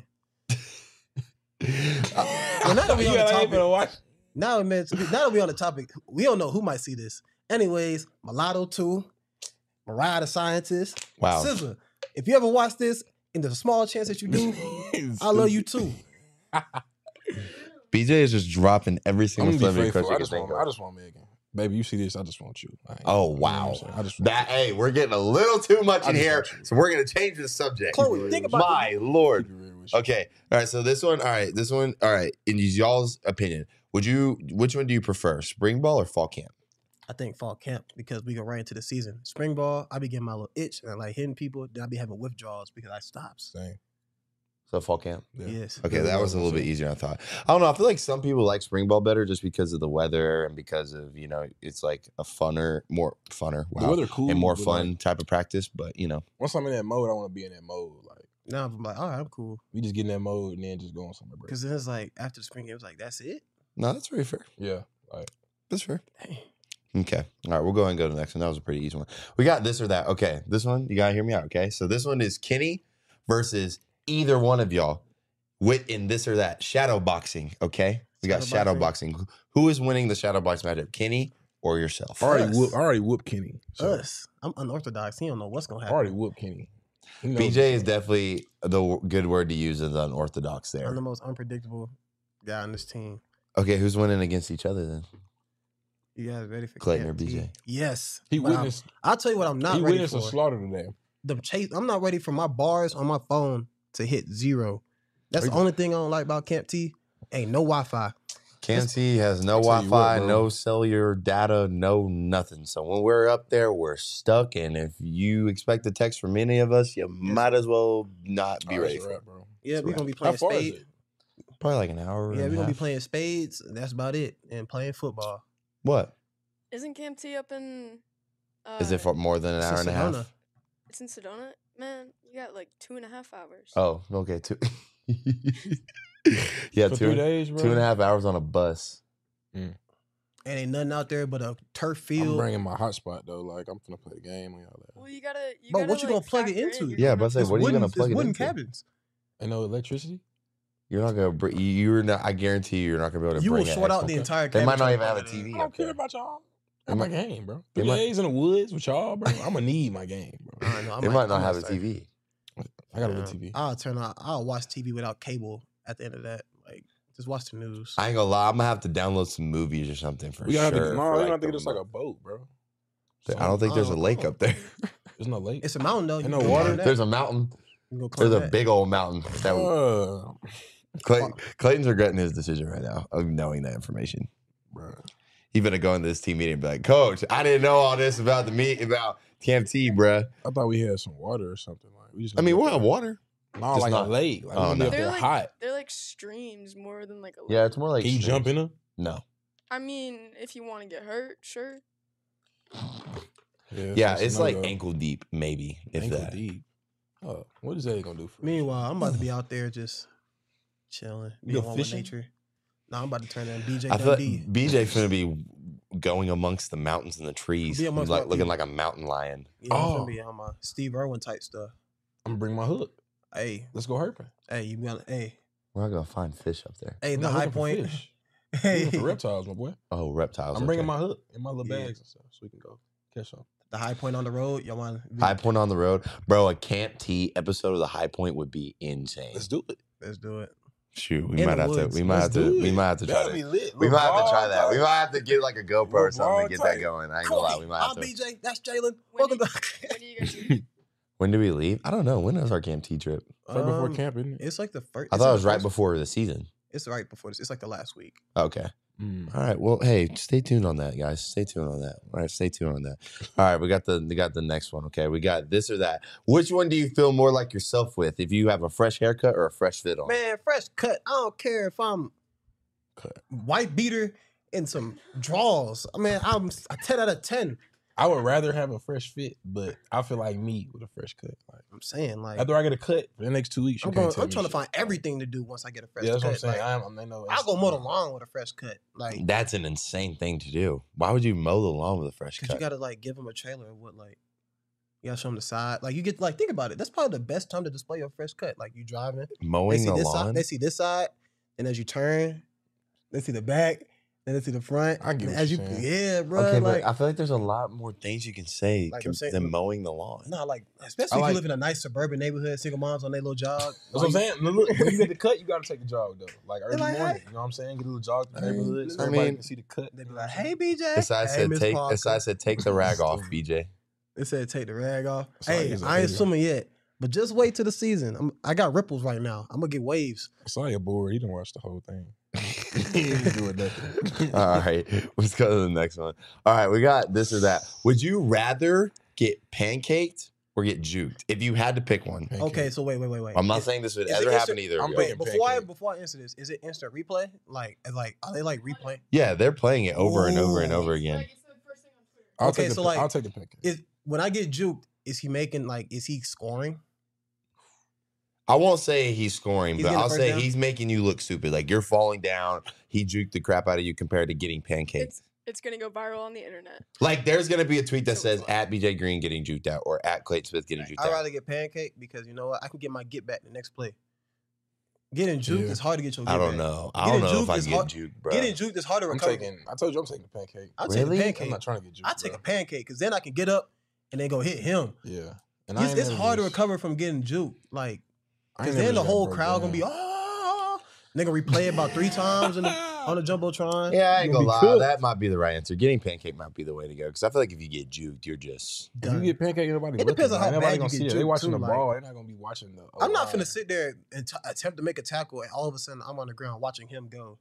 Well, now that we on the topic, watch. now that we on the topic, we don't know who might see this. Anyways, Mulatto 2, Mariah the Scientist, Wow. SZA. If you ever watch this, and there's a small chance that you do, I love you too. BJ is just dropping every I'm single gonna be celebrity faithful. crush I you just can want. think I of. just want Megan. Baby, you see this? I just want you. Oh, You know wow. what I'm saying? I just want That you. hey, we're getting a little too much I in just here, want you. so we're gonna change the subject. Chloe, think about My it. lord. Keep it real with you. Okay. All right. So this one. All right. This one. All right. In y'all's opinion, which one do you prefer, spring ball or fall camp? I think fall camp because we go right into the season. Spring ball, I be getting my little itch and I like hitting people. Then I be having withdrawals because I stops. Same. So fall camp. Yeah. Yes. Okay, Very that well was a little bit said. easier than I thought. I don't know. I feel like some people like spring ball better just because of the weather and because of it's like a more funner. The Wow. weather cool And more but, fun like, type of practice, but once I'm in that mode, I want to be in that mode. Like Now I'm like, all right, I'm cool. we just get in that mode and then just go on somewhere. Bro. Because then it's like after the spring game, it was like, that's it? no, that's very fair. Yeah. Like That's fair. Dang. Okay. All right, we'll go ahead and go to the next one. That was a pretty easy one. We got this or that. Okay, this one, you got to hear me out, okay? So this one is Kenny versus either one of y'all in this or that. Shadow boxing, okay? We got shadow boxing. Who is winning the shadow box matchup, Kenny or yourself? I Us. already whooped Kenny. So Us. I'm unorthodox. He don't know what's going to I happen. already whooped Kenny. He knows BJ is what's up. definitely the good word to use as unorthodox I'm there. the most unpredictable guy on this team. Okay, who's winning against each other then? You guys ready for Clayton or KFT? BJ? Yes. He But witnessed. I'll tell you what I'm not He ready witnessed for. a slaughter today. The chase. I'm not ready for my bars on my phone to hit 0. That's the Are you- only thing I don't like about Camp T. Ain't no Wi-Fi. KMT has no I'll tell you Wi-Fi, what, bro. no cellular data, no nothing. So when we're up there, we're stuck. And if you expect a text from any of us, you might as well not be Oh, ready that's a for it. wrap, bro. Yeah, It's we're right. gonna be How playing far is spades. it? Probably like an hour. Yeah, and we're a gonna be half. playing spades. And that's about it. And playing football. What? Isn't Camp T up in? Is it for more than an It's hour in and a half? Sedona. It's in Sedona, man. You got like 2.5 hours. Oh, okay. Two. Yeah, For 2 3 days, bro. 2.5 hours on a bus. And ain't nothing out there but a turf I'm field. bringing my hotspot though. Like I'm finna play the game and all that. Well, you gotta. But gotta, what you gonna plug it factor into? you're Yeah, going but I up say, to what are you gonna plug it wooden into? cabins. Ain't no electricity. You're not gonna. You're not. I guarantee you're not gonna be able to. You will bring short an out the extra- entire They cabin. might not trying even to have a plug it in. TV. I don't up care there. about y'all. They Got my might- game, bro. they 3 might- days in the woods with y'all, bro. I'm gonna need my game, bro. I know, I They might not I have a start- TV. I got a little TV. I'll watch TV without cable at the end of that. Like, just watch the news. I ain't gonna lie. I'm gonna have to download some movies or something for We gotta sure. have to. No, for, we like, have to the get us like a month. boat, bro. I don't think there's a lake up there. There's no lake. It's a mountain though. Ain't You no can go water? climb that. There's a mountain. You can go climb There's a that. big old mountain. Bro. Clayton's regretting his decision right now of knowing that information. Bro. He better go into this team meeting and be like, Coach, I didn't know all this about about TMT, bruh. I thought we had some water or something. Like we just. I mean, we'll have water. No, just like not- a lake. Like Oh, we no. up there They're like hot. They're like streams more than like a. Yeah, lake. it's more like. Can you jump in them? No. I mean, if you want to get hurt, sure. Yeah, it's like ankle ankle deep, maybe, if that. deep. Oh, what is that gonna do for us? Meanwhile, I'm about to be out there just chilling, You being go one with fishing? nature. No, I'm about to turn that BJ I feel like Dundee. BJ finna be going amongst the mountains and the trees, Be amongst like my looking people. like a mountain lion. Yeah, I'm Oh. gonna be on my Steve Irwin type stuff. I'm gonna bring my hook. Hey, Let's go herping. you got hey, We're not gonna find fish up there. hey, I'm the not high looking for point. fish. I'm Hey, looking for reptiles, my boy. Oh, reptiles. I'm bringing okay. my hook in my little Yeah. bags and stuff, so we can go catch some. the high point on the road. Y'all want High Point on the road, bro. A Camp T episode of the High Point would be insane. Let's do it. Let's do it. Shoot, we In might the have to. woods. We might have to. We might have to try That'd be that. lit. We Little might have to try vlog that. We type. might have to get like a GoPro or Little something to vlog get that type. going. I ain't gonna lie. We might have I'm to. BJ. That's Jalen. When Welcome do, to. when do you guys leave? When do we leave? I don't know. When is our Camp T trip? Right before Um, camp, isn't it? It's like the first. I thought it was right before the season. It's right before this. It's like the last week. Okay. Mm. All right. Well, hey, stay tuned on that, guys. Stay tuned on that. All right, stay tuned on that. All right, we got the next one. Okay, we got this or that. Which one do you feel more like yourself with? If you have a fresh haircut or a fresh fit on? Man, fresh cut. I don't care if I'm Cut. white beater and some draws. I mean, I'm a 10 out of 10. I would rather have a fresh fit, but I feel like me with a fresh cut. Like I'm saying, like, after I get a cut for the next 2 weeks, I'm trying to find everything to do once I get a fresh Yeah, cut. that's what I'm saying. Like, I'll go mow the lawn with a fresh cut. Like, That's an insane thing to do. Why would you mow the lawn with a fresh because cut? you got to, like, give them a trailer of what, like, you got to show them the side. Like, you get, like, think about it. That's probably the best time to display your fresh cut. Like, you driving. They Mowing see the this lawn? side. They see this side. And as you turn, they see the back. Then they see the front. I get and what as you're you, saying. yeah, bro. Okay, like, but I feel like there's a lot more things you can say Like I'm saying- than mowing the lawn. no, like, especially if like- you live in a nice suburban neighborhood, single moms on their little jog. That's what I'm saying. Look, when you get the cut, you got to take the jog though. Like early like, morning, hey. you know what I'm saying? Get a little jog through the neighborhood, so I everybody mean- can see the cut. They be like, hey, BJ. Besides hey, said Miss take, Parker. besides said take the rag off, BJ. They said take the rag off. It's like Hey, it's I ain't okay. swimming yet, but just wait till the season. I got ripples right now. I'm gonna get waves. I saw you bored. You didn't watch the whole thing. He ain't doing nothing. All right, let's go to the next one. All right, we got this or that. Would you rather get pancaked or get juked? If you had to pick one. Pancake. Okay, so wait. I'm not Is- saying this would is it ever happen instant- either. I'm of waiting. y'all. Wait, pancake. before I answer this, is it instant replay? Like are they like replaying? Yeah, they're playing it over and over and over again. I'll Okay, take the, so, like, I'll take the pancake. Is when I get juked, is he scoring? I won't say he's scoring, He's but getting the I'll first say down? he's making you look stupid. Like you're falling down. He juked the crap out of you compared to getting pancaked. It's gonna go viral on the internet. Like there's gonna be a tweet that So says fun. at BJ Green getting juked out or at Clayton Smith getting juked I'd out. rather get pancake because you know what? I can get my get back the next play. Getting juked Yeah. is hard to get your get I don't back. know. I Getting don't know if juked I is can get hard- juked, bro. Getting juked is hard to I'm recover. I told you I'm taking the pancake. I'll Really? take a I'm pancake. not trying to get juked. I take bro. a pancake because then I can get up and then go hit him. Yeah. And I It's, ain't it's never hard to just- recover from getting juked. Like, I because ain't never then the just got whole broke crowd gonna down. be, oh, they gonna replay it about 3 times on the Jumbotron. Yeah, I ain't You gonna gonna lie. be cooked. That might be the right answer. Getting pancake might be the way to go because I feel like if you get juked, you're just. If you Done. get pancake, nobody. It depends on how looking. Nobody bad gonna you see get it. They juked, watching too, the like- ball. They're not gonna be watching the. I'm not line. finna sit there and attempt to make a tackle and all of a sudden I'm on the ground watching him go.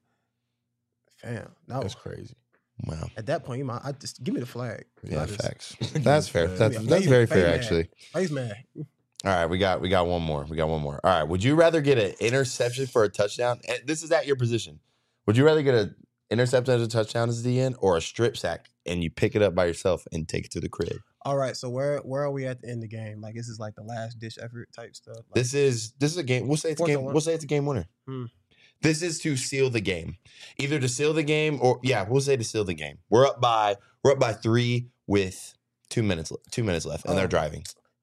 Fam, no. That's crazy. Wow. At that point, I just give me the flag. Yeah, I just- facts. That's fair. Yeah. That's Yeah, very fade fair, mad. actually. Face man. All right, we got one more. All right, would you rather get an interception for a touchdown? And this is at your position. Would you rather get an interception as a touchdown as the end, or a strip sack and you pick it up by yourself and take it to the crib? All right, so where are we at the end of the game? Like this is like the last ditch effort type stuff. Like, This is a game. We'll say it's a Fourth game. and one. We'll say it's a game winner. Hmm. This is to seal the game, either to seal the game or we'll say to seal the game. We're up by 3 with 2 minutes left, and they're Oh. driving.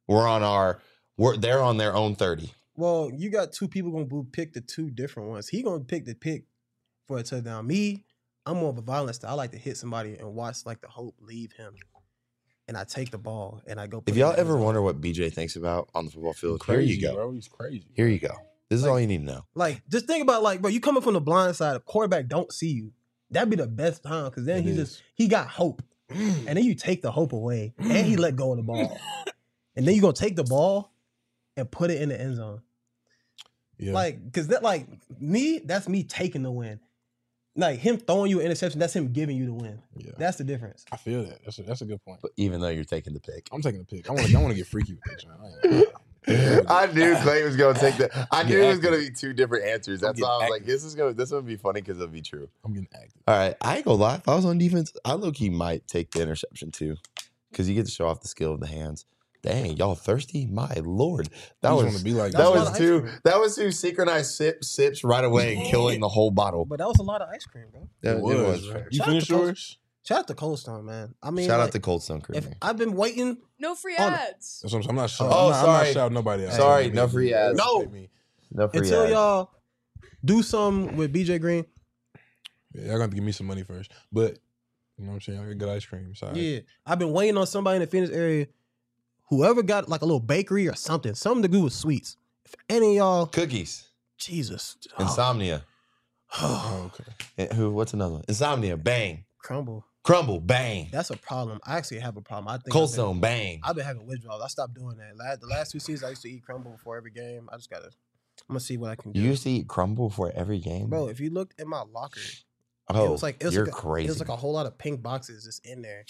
They're on their own 30. well, you got 2 people gonna pick the 2 different ones. He gonna pick the pick for a touchdown. Me, I'm more of a violent style. I like to hit somebody and watch like the hope leave him, and I take the ball and I go. put If it y'all in the ever end zone. wonder what BJ thinks about on the football field, Crazy, here you go. bro. He's crazy. Here you go. This is all you need to know. Like, just think about like, bro, you coming from the blind side, the quarterback don't see you. That'd be the best time because then It is. he got hope. And then you take the hope away and he let go of the ball. And then you're gonna take the ball and put it in the end zone. Yeah. Like, cause that like me, that's me taking the win. Like him throwing you an interception, that's him giving you the win. yeah. That's the difference. I feel that. That's a good point. But even though you're taking the pick. I'm taking the pick. I want to get freaky with that. John. I knew Clay was going to take that. I I'm knew getting it was going to active. be 2 different answers. That's I'm why I was getting like, this is going to be funny because it'll be true. I'm getting active. All right. I ain't going to lie. If I was on defense, I low-key might take the interception too because you get to show off the skill of the hands. Dang, y'all thirsty? My Lord. That I just was want to be like That's that a lot was of ice two cream. that was 2 synchronized sips right away and killing the whole bottle. But that was a lot of ice cream, bro. That- It was, fair. You Shout out finished to Coach- yours? Shout out to Cold Stone, man. I mean, Shout like, out to Cold Stone Crew. if I've been waiting. No free On- ads. That's what I'm saying. I'm not shouting. Oh, I'm not sorry. shouting nobody out. Sorry, Hey, no free hey, ads. No. hit me. No free Until ads. y'all do something with BJ Green, Yeah, y'all got to give me some money first. But you know what I'm saying? I got good ice cream. Sorry. yeah, I've been waiting on somebody in the Phoenix area. Whoever got like a little bakery or something to do with sweets. If any of y'all, Cookies. Jesus, Insomnia. Oh, okay. And what's another one? Insomnia. Bang. crumble. Crumble. Bang. That's a problem. I actually have a problem. I think Cold I've been- Stone. Bang. I've been having withdrawals. I stopped doing that. The last 2 seasons, I used to eat crumble before every game. I just gotta. I'm gonna see what I can do. You used to eat crumble for every game? Bro, if you looked in my locker, oh, it was like you're a, crazy. It was like a whole lot of pink boxes just in there.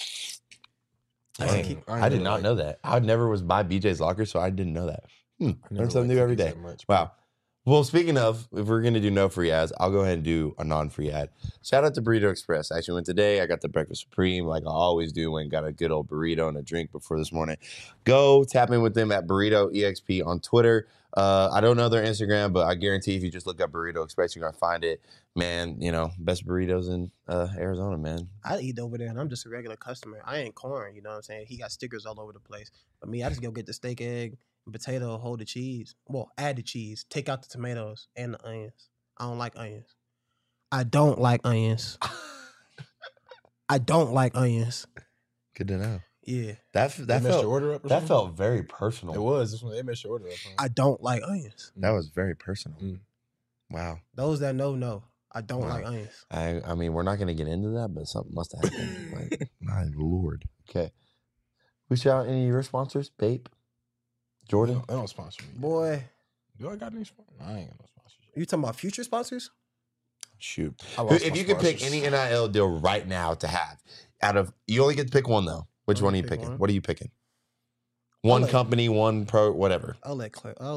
I Dang, used to keep- I did not know that. I never was by BJ's locker, so I didn't know that. I never Learn something liked new every cookies day. that much, Wow. Well, speaking of, if we're going to do no free ads, I'll go ahead and do a non-free ad. Shout out to Burrito Express. I actually went today. I got the breakfast supreme like I always do. Went and got a good old burrito and a drink before this morning. Go tap in with them at Burrito EXP on Twitter. I don't know their Instagram, but I guarantee if you just look up Burrito Express, you're going to find it. Man, best burritos in Arizona, man. I eat over there, and I'm just a regular customer. I ain't corn, you know what I'm saying? He got stickers all over the place. But me, I just go get the steak, egg, potato, hold the cheese. Well, add the cheese, take out the tomatoes and the onions. I don't like onions. I don't like onions. I don't like onions. Good to know. Yeah. That Messed your felt order up or that something? felt very personal. It was. This one, they messed your order up. Huh? I don't like onions. That was very personal. Mm. Wow. Those that know. I don't Wow. like onions. I mean, we're not going to get into that, but something must have happened. Like, my lord. Okay. We shout out any of your sponsors? Bape? Jordan? They don't sponsor me. Boy, Do I got any sponsors? I ain't got no sponsorship. you talking about future sponsors? Shoot. I lost If my you could pick sponsors. any NIL deal right now to have, you only get to pick one, though. Which Only one are you pick picking? one? What are you picking? One let- company, one pro, whatever. I'll let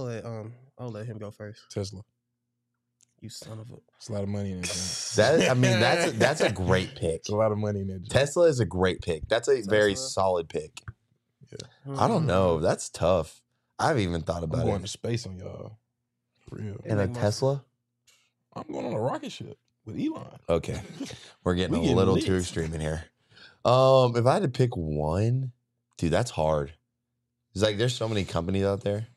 him go first. Tesla. You son of a. It's a lot of money in that. joint. That's a great pick. It's a lot of money in that. joint. Tesla is a great pick. That's a very Tesla? solid pick. I don't know. That's tough. I haven't even thought I'm about going it. to space on y'all. For real. And a make my- Tesla? I'm going on a rocket ship with Elon. Okay. We're getting We a getting little lit. too extreme in here. If I had to pick one, dude, that's hard. It's like there's so many companies out there.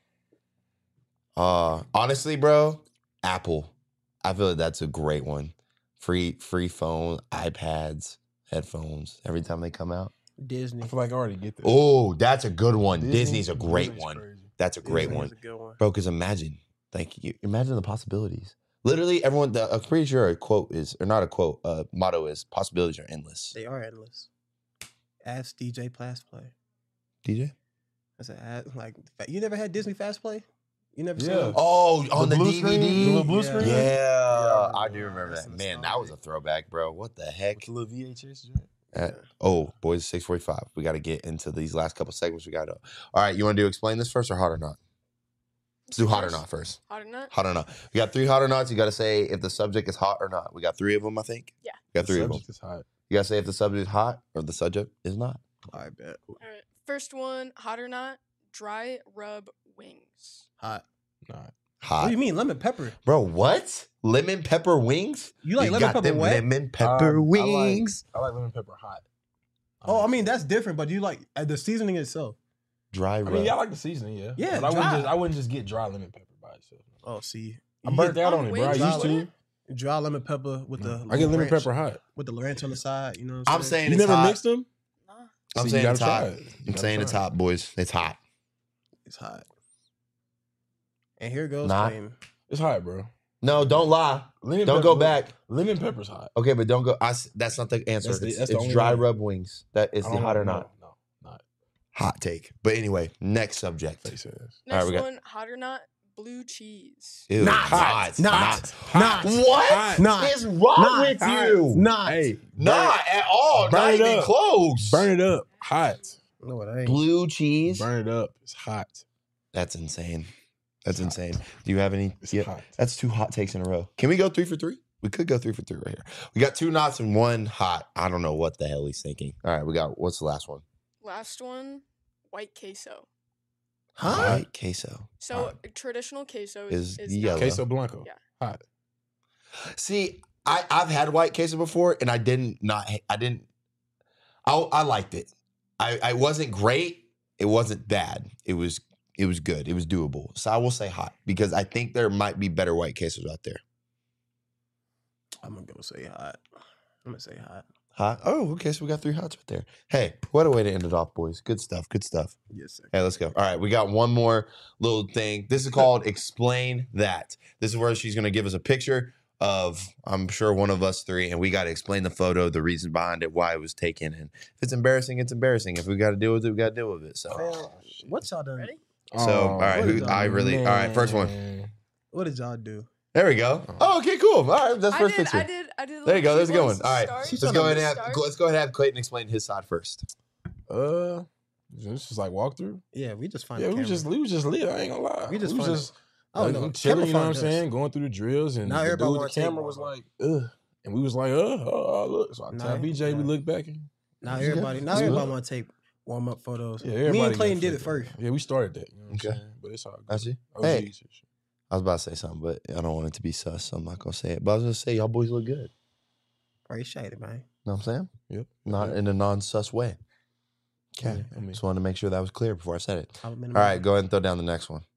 Honestly, bro, Apple. I feel like that's a great one. Free phone, iPads, headphones, every time they come out. Disney. I feel like I already get that. Oh, that's a good one. Disney- Disney's a great Disney's one. crazy. That's a great Disney one. is a good one. Bro, because imagine the possibilities. Literally, everyone, I'm pretty sure a quote is, or not a quote, motto is, possibilities are endless. They are endless. Ask DJ Fast Play. DJ? I said, like, you never had Disney Fast Play? You never seen Yeah. them? Oh, on the blue DVD? screen? The little blue Yeah. screen? Yeah, Yeah, I do remember that's that. Man, that was a throwback, bro. What the heck? It's a little VHS joint. Boys, 6:45. We got to get into these last couple segments. We got to. All right, you want to do explain this first or hot or not? Let's do hot or not first. Hot or not? Hot or not. We got 3 hot or nots. You got to say if the subject is hot or not. We got 3 of them, I think. Yeah. We got 3 of them. Subject is hot. You got to say if the subject is hot or the subject is not. I bet. All right. First one, hot or not? Dry rub wings. Hot. Nah. What Hot. do you mean, lemon pepper? Bro, what? Lemon pepper wings? You like lemon got pepper them wet? lemon pepper wings. I like lemon pepper hot. Oh, I mean, that's different, but you like the seasoning itself. Dry I rub. mean, yeah, I like the seasoning, yeah. Yeah, but dry. I wouldn't just get dry lemon pepper by itself. Oh, see. I You burnt get out on it, bro. I wings used with to. it? Dry lemon pepper with the I get lemon ranch- pepper hot. with the ranch on the side, you know what I'm saying You it's never hot. mixed them? Nah. I'm See, you saying gotta it's try hot. it. You I'm gotta saying it's try it. hot, boys. It's hot. It's hot. And here goes Nah. claim. It's hot, bro. No, don't lie. Lemon Don't pepper- go back. Lemon pepper's hot. Okay, but don't go. That's not the answer. That's the- it's that's the it's only dry one. rub wings. That is I the don't hot know. or not? No, not. Hot take. But anyway, next subject. Face ass. Next we got- one, hot or not? Blue cheese. Ew, Not. hot. Not. Not. What? Hot. Not. What's wrong Not. with Hot. you? Not. Hey, Not at all. Burn Not it even up. close. burn it up. Hot. No, it ain't. Blue cheese. Burn it up. It's hot. That's insane. That's It's hot. insane. Do you have any? It's Yeah, hot. that's 2 hot takes in a row. Can we go 3 for 3? We could go 3 for 3 right here. We got 2 knots and 1 hot. I don't know what the hell he's thinking. All right, we got, what's the last one? Last one, white queso. Huh? White queso. So traditional queso Is is yellow. not- Queso Blanco. Yeah. Hot. See, I've had white queso before, and I liked it. I wasn't great. It wasn't bad. It was good. It was doable. So I will say hot because I think there might be better white quesos out there. I'm gonna go say hot. I'm gonna say hot. Hot. Oh, okay. So we got 3 hots right there. Hey, what a way to end it off, boys. Good stuff. Good stuff. Yes, sir. Hey, let's go. All right, we got one more little thing. This is called Explain That. This is where she's going to give us a picture of, I'm sure, one of us 3, and we got to explain the photo, the reason behind it, why it was taken. And if it's embarrassing, it's embarrassing. If we got to deal with it, we got to deal with it. So, What y'all done? Ready? all right, all right, first one. What did y'all do? There we go. Oh, okay, cool. All right, that's first picture. I did. There you go. There's a good one. Let's All right, start. let's go ahead and have Clayton explain his side first. This is like walkthrough. Yeah, we just find. Yeah, the we camera. was just lit. I ain't gonna lie. We just was find just Oh Like, no, I'm chilling, you know what I'm camouflage saying? Going through the drills, and Now the everybody dude wanna with the take camera was one, like, ugh. And we was like, look. So I Nah, tell BJ, we nah. look back. And, Now That's good. everybody, That's good. want to take warm up photos. yeah, Me everybody and got Clayton did it flipped. first. Yeah, we started that. You know what Okay. I'm saying? But it's all good. I see. OGs Hey. and shit. I was about to say something, but I don't want it to be sus, so I'm not gonna say it. But I was gonna say y'all boys look good. Appreciate it, man. Know what I'm saying? Yep. Not in a non-sus way. Okay. I mean, Just wanted to make sure that was clear before I said it. All All right, go ahead and throw down the next one.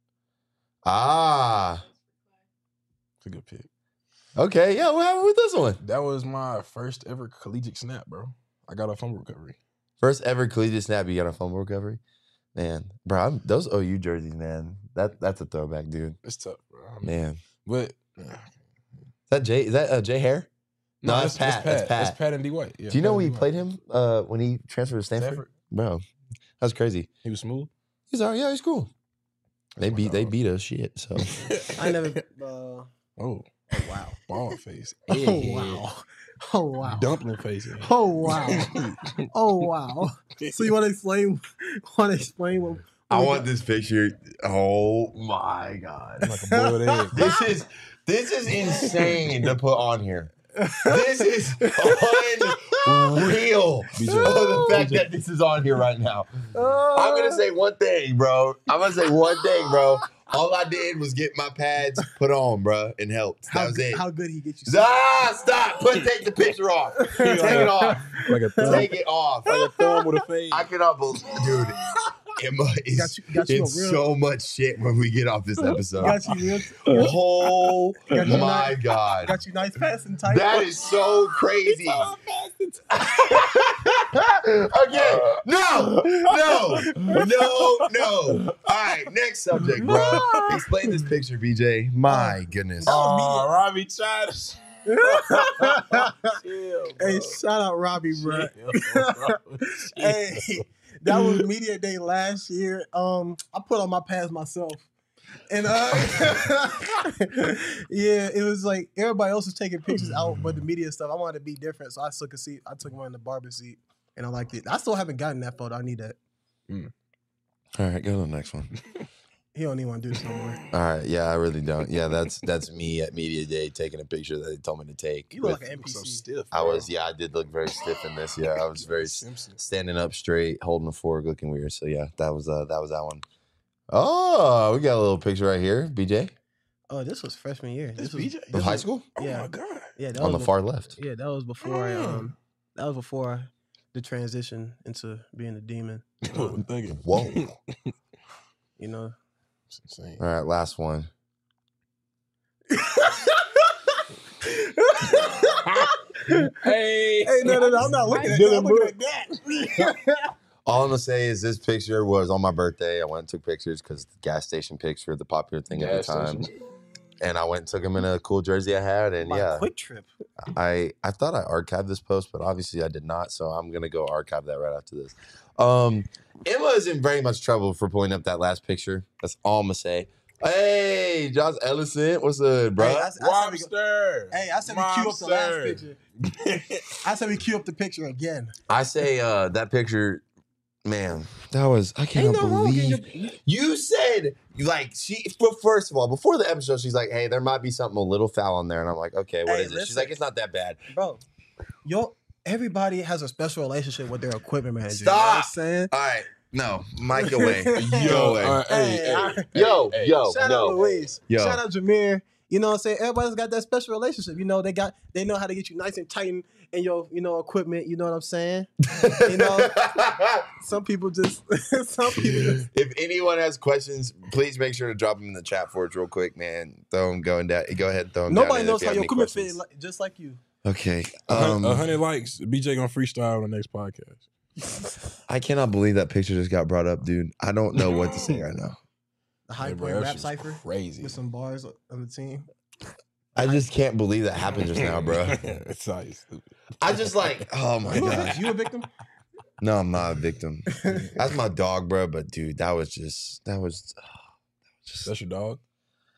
it's a good pick. Okay. Yeah, what happened with this one? That was my first ever collegiate snap, bro. I got a fumble recovery. First ever collegiate snap, you got a fumble recovery? Man, bro, those OU jerseys, man, that's a throwback, dude. It's tough, bro. I mean, Man. but Is that Jay Hare? No, that's Pat. That's Pat. That's Pat and D White. Yeah, Do you know Pat we and D. played him when he transferred to Stanford? Bro, that's crazy. He was smooth. He's all right. Yeah, he's cool. They That's my beat dog. us shit. So I never. Oh, Oh wow. bald face. Oh Egghead. wow. Oh wow. Dumpling face. Yeah. Oh wow. Oh wow. So you want to explain? What? I want this picture. Oh my god, Like a boiled egg. This is insane to put on here. This is unreal. The fact that this is on here right now. I'm gonna say one thing, bro. All I did was get my pads put on, bro, and helped. That was it. How good he get you? Stop! Take the picture off. Take it off. Like a thumb. Take it off. Like a thumb with a fade. I cannot believe, dude. Emma is got you it's a real- so much shit when we get off this episode. Got you real. Oh Got you my nice- god. Got you nice passing tight. That is so crazy. Okay. No. All right, next subject, bro. Explain this picture, BJ. My goodness. Oh, Robbie Childish. Hey, shout out Robbie, bro. Hey, that was media day last year. I put on my pads myself. And yeah, it was like everybody else was taking pictures out, but the media stuff, I wanted to be different. So I took a seat. I took one in the barber seat, and I liked it. I still haven't gotten that photo. I need that. All right, go to the next one. He don't even want to do this no more. All right, yeah, I really don't. Yeah, that's me at media day taking a picture that they told me to take. You look with- like an NPC. So stiff. I bro. was, yeah, I did look very stiff in this. Yeah, I was very Simpson. standing up straight, holding a fork, looking weird. So yeah, that was that one. Oh, we got a little picture right here, BJ, Oh, this was freshman year. This was, BJ? of high school Oh Yeah. my god. Yeah, that on the was far left. Yeah, that was before. Mm. That was before the transition into being a demon. Wasn't thinking. Whoa. You know. It's insane. All right, last one. Hey, no, I'm not looking at that. I'm looking at that. All I'm gonna say is this picture was on my birthday. I went and took pictures because the gas station picture, the popular thing at the Gas time. station. And I went and took him in a cool jersey I had, and My yeah, quick trip. I thought I archived this post, but obviously I did not. So I'm gonna go archive that right after this. Emma is in very much trouble for pulling up that last picture. That's all I'm gonna say. Hey, Josh Ellison, what's up, bro? Hey, I said we cue up the last Mobster. picture. I said we cue up the picture again. I say that picture, man, that was I cannot no wrong in believe you said like first of all, before the episode, she's like, hey, there might be something a little foul on there. And I'm like, okay, what Hey, is it? She's listen. like, it's not that bad. Bro, everybody has a special relationship with their equipment manager. Stop. You know what I'm saying? All right, no, mic away. Yo, away. yo, Shout out Luis. Yo. Shout out Jameer. You know what I'm saying? Everybody's got that special relationship. You know, they know how to get you nice and tight in your, equipment. You know what I'm saying? You know, some people just. If anyone has questions, please make sure to drop them in the chat for us real quick, man. Throw them going down. Go ahead, throw them down. Nobody there knows if you how have your any equipment questions. fit just like you. Okay. 100 likes. BJ gonna freestyle on the next podcast. I cannot believe that picture just got brought up, dude. I don't know what to say right now. The high Yeah, bro, point that rap shit's cipher crazy. with some bars on the team. I just can't believe that happened just now, bro. It's so stupid. I just like, oh my gosh. You a victim? No, I'm not a victim. That's my dog, bro. But dude, that was just. That's your dog.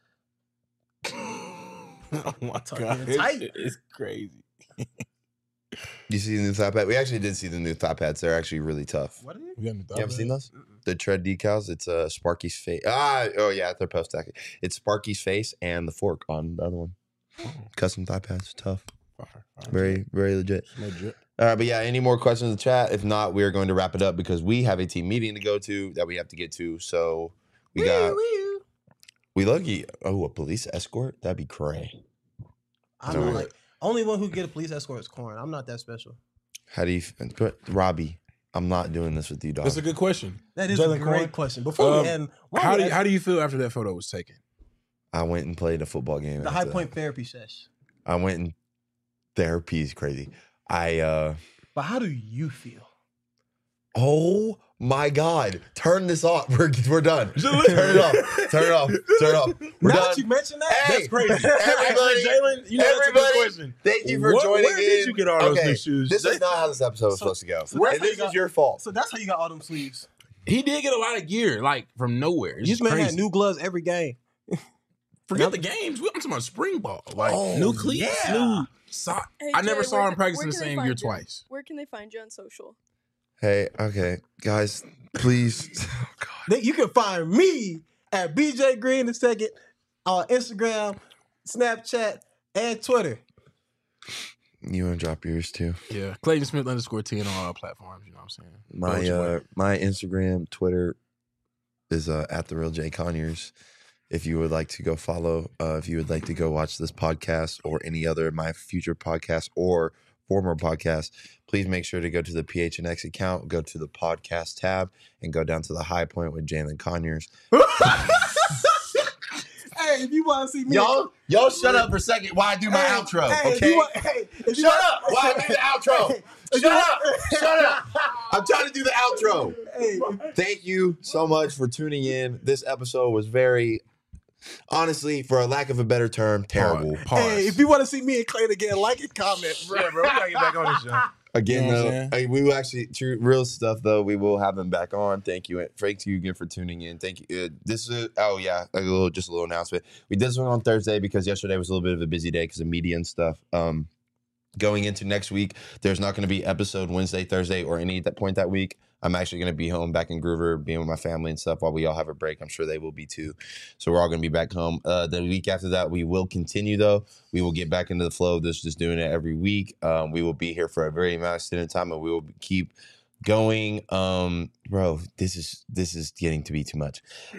Oh my Tucking god, it tight. it's crazy. You see the new thigh pad? We actually did see the new thigh pads. They're actually really tough. What are they? We haven't You haven't seen those? The tread decals. It's Sparky's face. Oh yeah, they're post stack. It's Sparky's face and the fork on the other one. Custom thigh pads, tough. Very, very legit. Legit. But yeah, any more questions in the chat? If not, we are going to wrap it up because we have a team meeting to go to that we have to get to. So we lucky. Oh, a police escort? That'd be cray. I don't like. Only one who can get a police escort is Corn. I'm not that special. How do you, Robbie? I'm not doing this with you, dog. That's a good question. That is Jalen a great Corn? question. Before we end, How do you feel after that photo was taken? I went and played a football game. the High after Point that. therapy sesh? I went and therapy is crazy. But how do you feel? Oh my God! Turn this off. We're done. Turn it off. Turn it off. Turn it off. We're Now done. that you mentioned that, Hey, That's crazy. everybody, Jalen, you know that's a good everybody, question. thank you for What- joining where did in. you get all those new shoes? This is not how this episode was supposed to go. so that's And how this you is got- your fault. So that's how you got all them sleeves. He did get a lot of gear, like from nowhere. It's This just man crazy. had new gloves every game. Forget the games. I'm talking about spring ball. Like Oh, new cleats, yeah. new sock. Hey, I never Jay, saw where him can- practice where in the can they same find gear you? twice. Where can they find you on social? Hey, okay, guys, please. Oh God. You can find me at BJ Green the second on Instagram, Snapchat, and Twitter. You want to drop yours too? Yeah, Clayton Smith _10 on all platforms. You know what I'm saying? My Instagram, Twitter is at the real Jay Conyers. If you would like to go follow, if you would like to go watch this podcast or any other of my future podcasts or former podcasts, please make sure to go to the PHNX account, go to the podcast tab, and go down to the High Point with Jalen Conyers. Hey, if you want to see me, Y'all shut up for a second while I do my outro, Hey, okay? if you Shut want- up while I do the outro. Shut up. Shut up. I'm trying to do the outro. Hey, Thank you so much for tuning in. This episode was very, honestly, for a lack of a better term, terrible. Pause. hey, if you want to see me and Clayton again, like and comment, bro. Yeah, bro, we gotta get back on this show. Again, You know what though, I'm hey, we will actually, real stuff, though, we will have him back on. Thank you. Thank you again for tuning in. Thank you. This is, just a little announcement. We did this one on Thursday because yesterday was a little bit of a busy day because of media and stuff. Going into next week, there's not going to be episode Wednesday, Thursday, or any at that point that week. I'm actually going to be home back in Groover, being with my family and stuff while we all have a break. I'm sure they will be too. So we're all going to be back home. The week after that, we will continue, though. We will get back into the flow of this, just doing it every week. We will be here for a very extended time, and we will keep going. Bro, this is getting to be too much.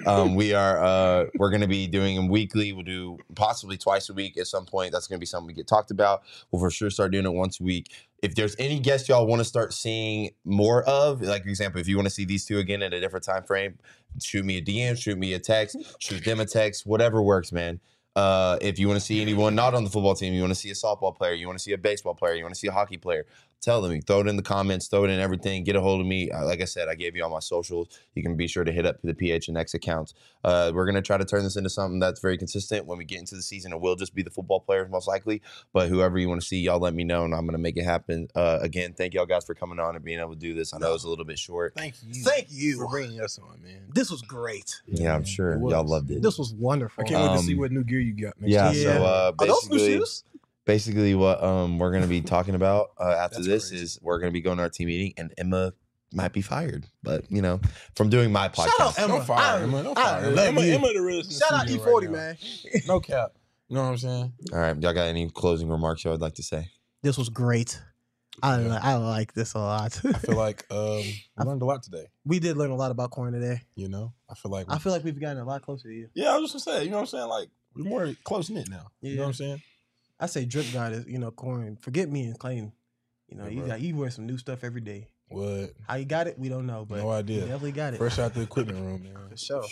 We're going to be doing them weekly. We'll do possibly twice a week at some point. That's going to be something we get talked about. We'll for sure start doing it once a week. If there's any guests y'all want to start seeing more of, like for example, if you want to see these two again at a different time frame, shoot me a DM, shoot me a text, shoot them a text, whatever works, man. If you want to see anyone not on the football team, you want to see a softball player, you want to see a baseball player, you want to see a hockey player, tell them. You throw it in the comments, throw it in everything. Get a hold of me. Like I said, I gave you all my socials. You can be sure to hit up the PHNX accounts. We're going to try to turn this into something that's very consistent. When we get into the season, it will just be the football players most likely. But whoever you want to see, y'all let me know, and I'm going to make it happen. Again, thank y'all guys for coming on and being able to do this. I know it's a little bit short. Thank you. Thank you. for bringing us on, man. This was great. Yeah, I'm man, sure it was. y'all loved it. This was wonderful. I can't wait to see Um, what new gear you got next Yeah, time. so Are those new basically, shoes? basically what we're going to be talking about after That's this crazy. is we're going to be going to our team meeting, and Emma might be fired, but from doing my podcast. Shout out Emma. Don't fire Emma. Don't fire Emma. love you. Emma the realest in the Shout out studio E40, right now. man. No cap. You know what I'm saying? All right, y'all got any closing remarks y'all would like to say? This was great. I like this a lot. I feel like we learned a lot today. We did learn a lot about corn today. You know, I feel like I feel like we've gotten a lot closer to you. yeah, I was just gonna say, you know what I'm saying? Like we're more close knit now. You know Yeah. what I'm saying? I say drip god is, corn. Forget me and Clayton. Yeah, You bro. wear some new stuff every day. What? How you got it, we don't know, but No idea. you definitely got it. Fresh out the equipment room, man. For sure.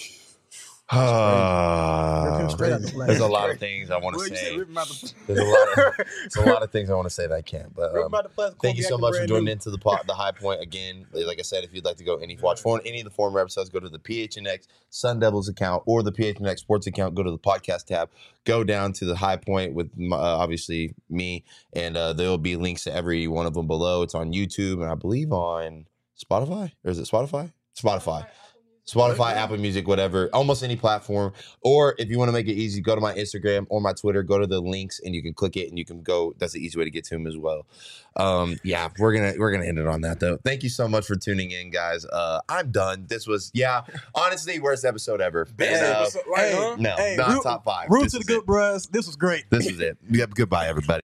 Ah, Rip him straight out the flag. there's a lot of things I want Well, to you said say. rip him out the There's a lot of things I want to say that I can't. But Rip him out the plastic, thank you Kobe so acting much for brand joining new. into the High Point again. Like I said, if you'd like to go watch any of the former episodes, go to the PHNX Sun Devils account or the PHNX Sports account. Go to the podcast tab. Go down to the High Point with obviously me, and there will be links to every one of them below. It's on YouTube and I believe on Spotify, or is it Spotify? Spotify. Spotify, Apple Music, whatever, almost any platform. Or if you want to make it easy, go to my Instagram or my Twitter, go to the links and you can click it and you can go. That's the easy way to get to him as well. Yeah, we're gonna end it on that though. Thank you so much for tuning in, guys. I'm done. This was honestly worst episode ever. Best episode, No, hey, not root- top 5. Root This to the is good it. bros. This was great. This is it. Goodbye, everybody.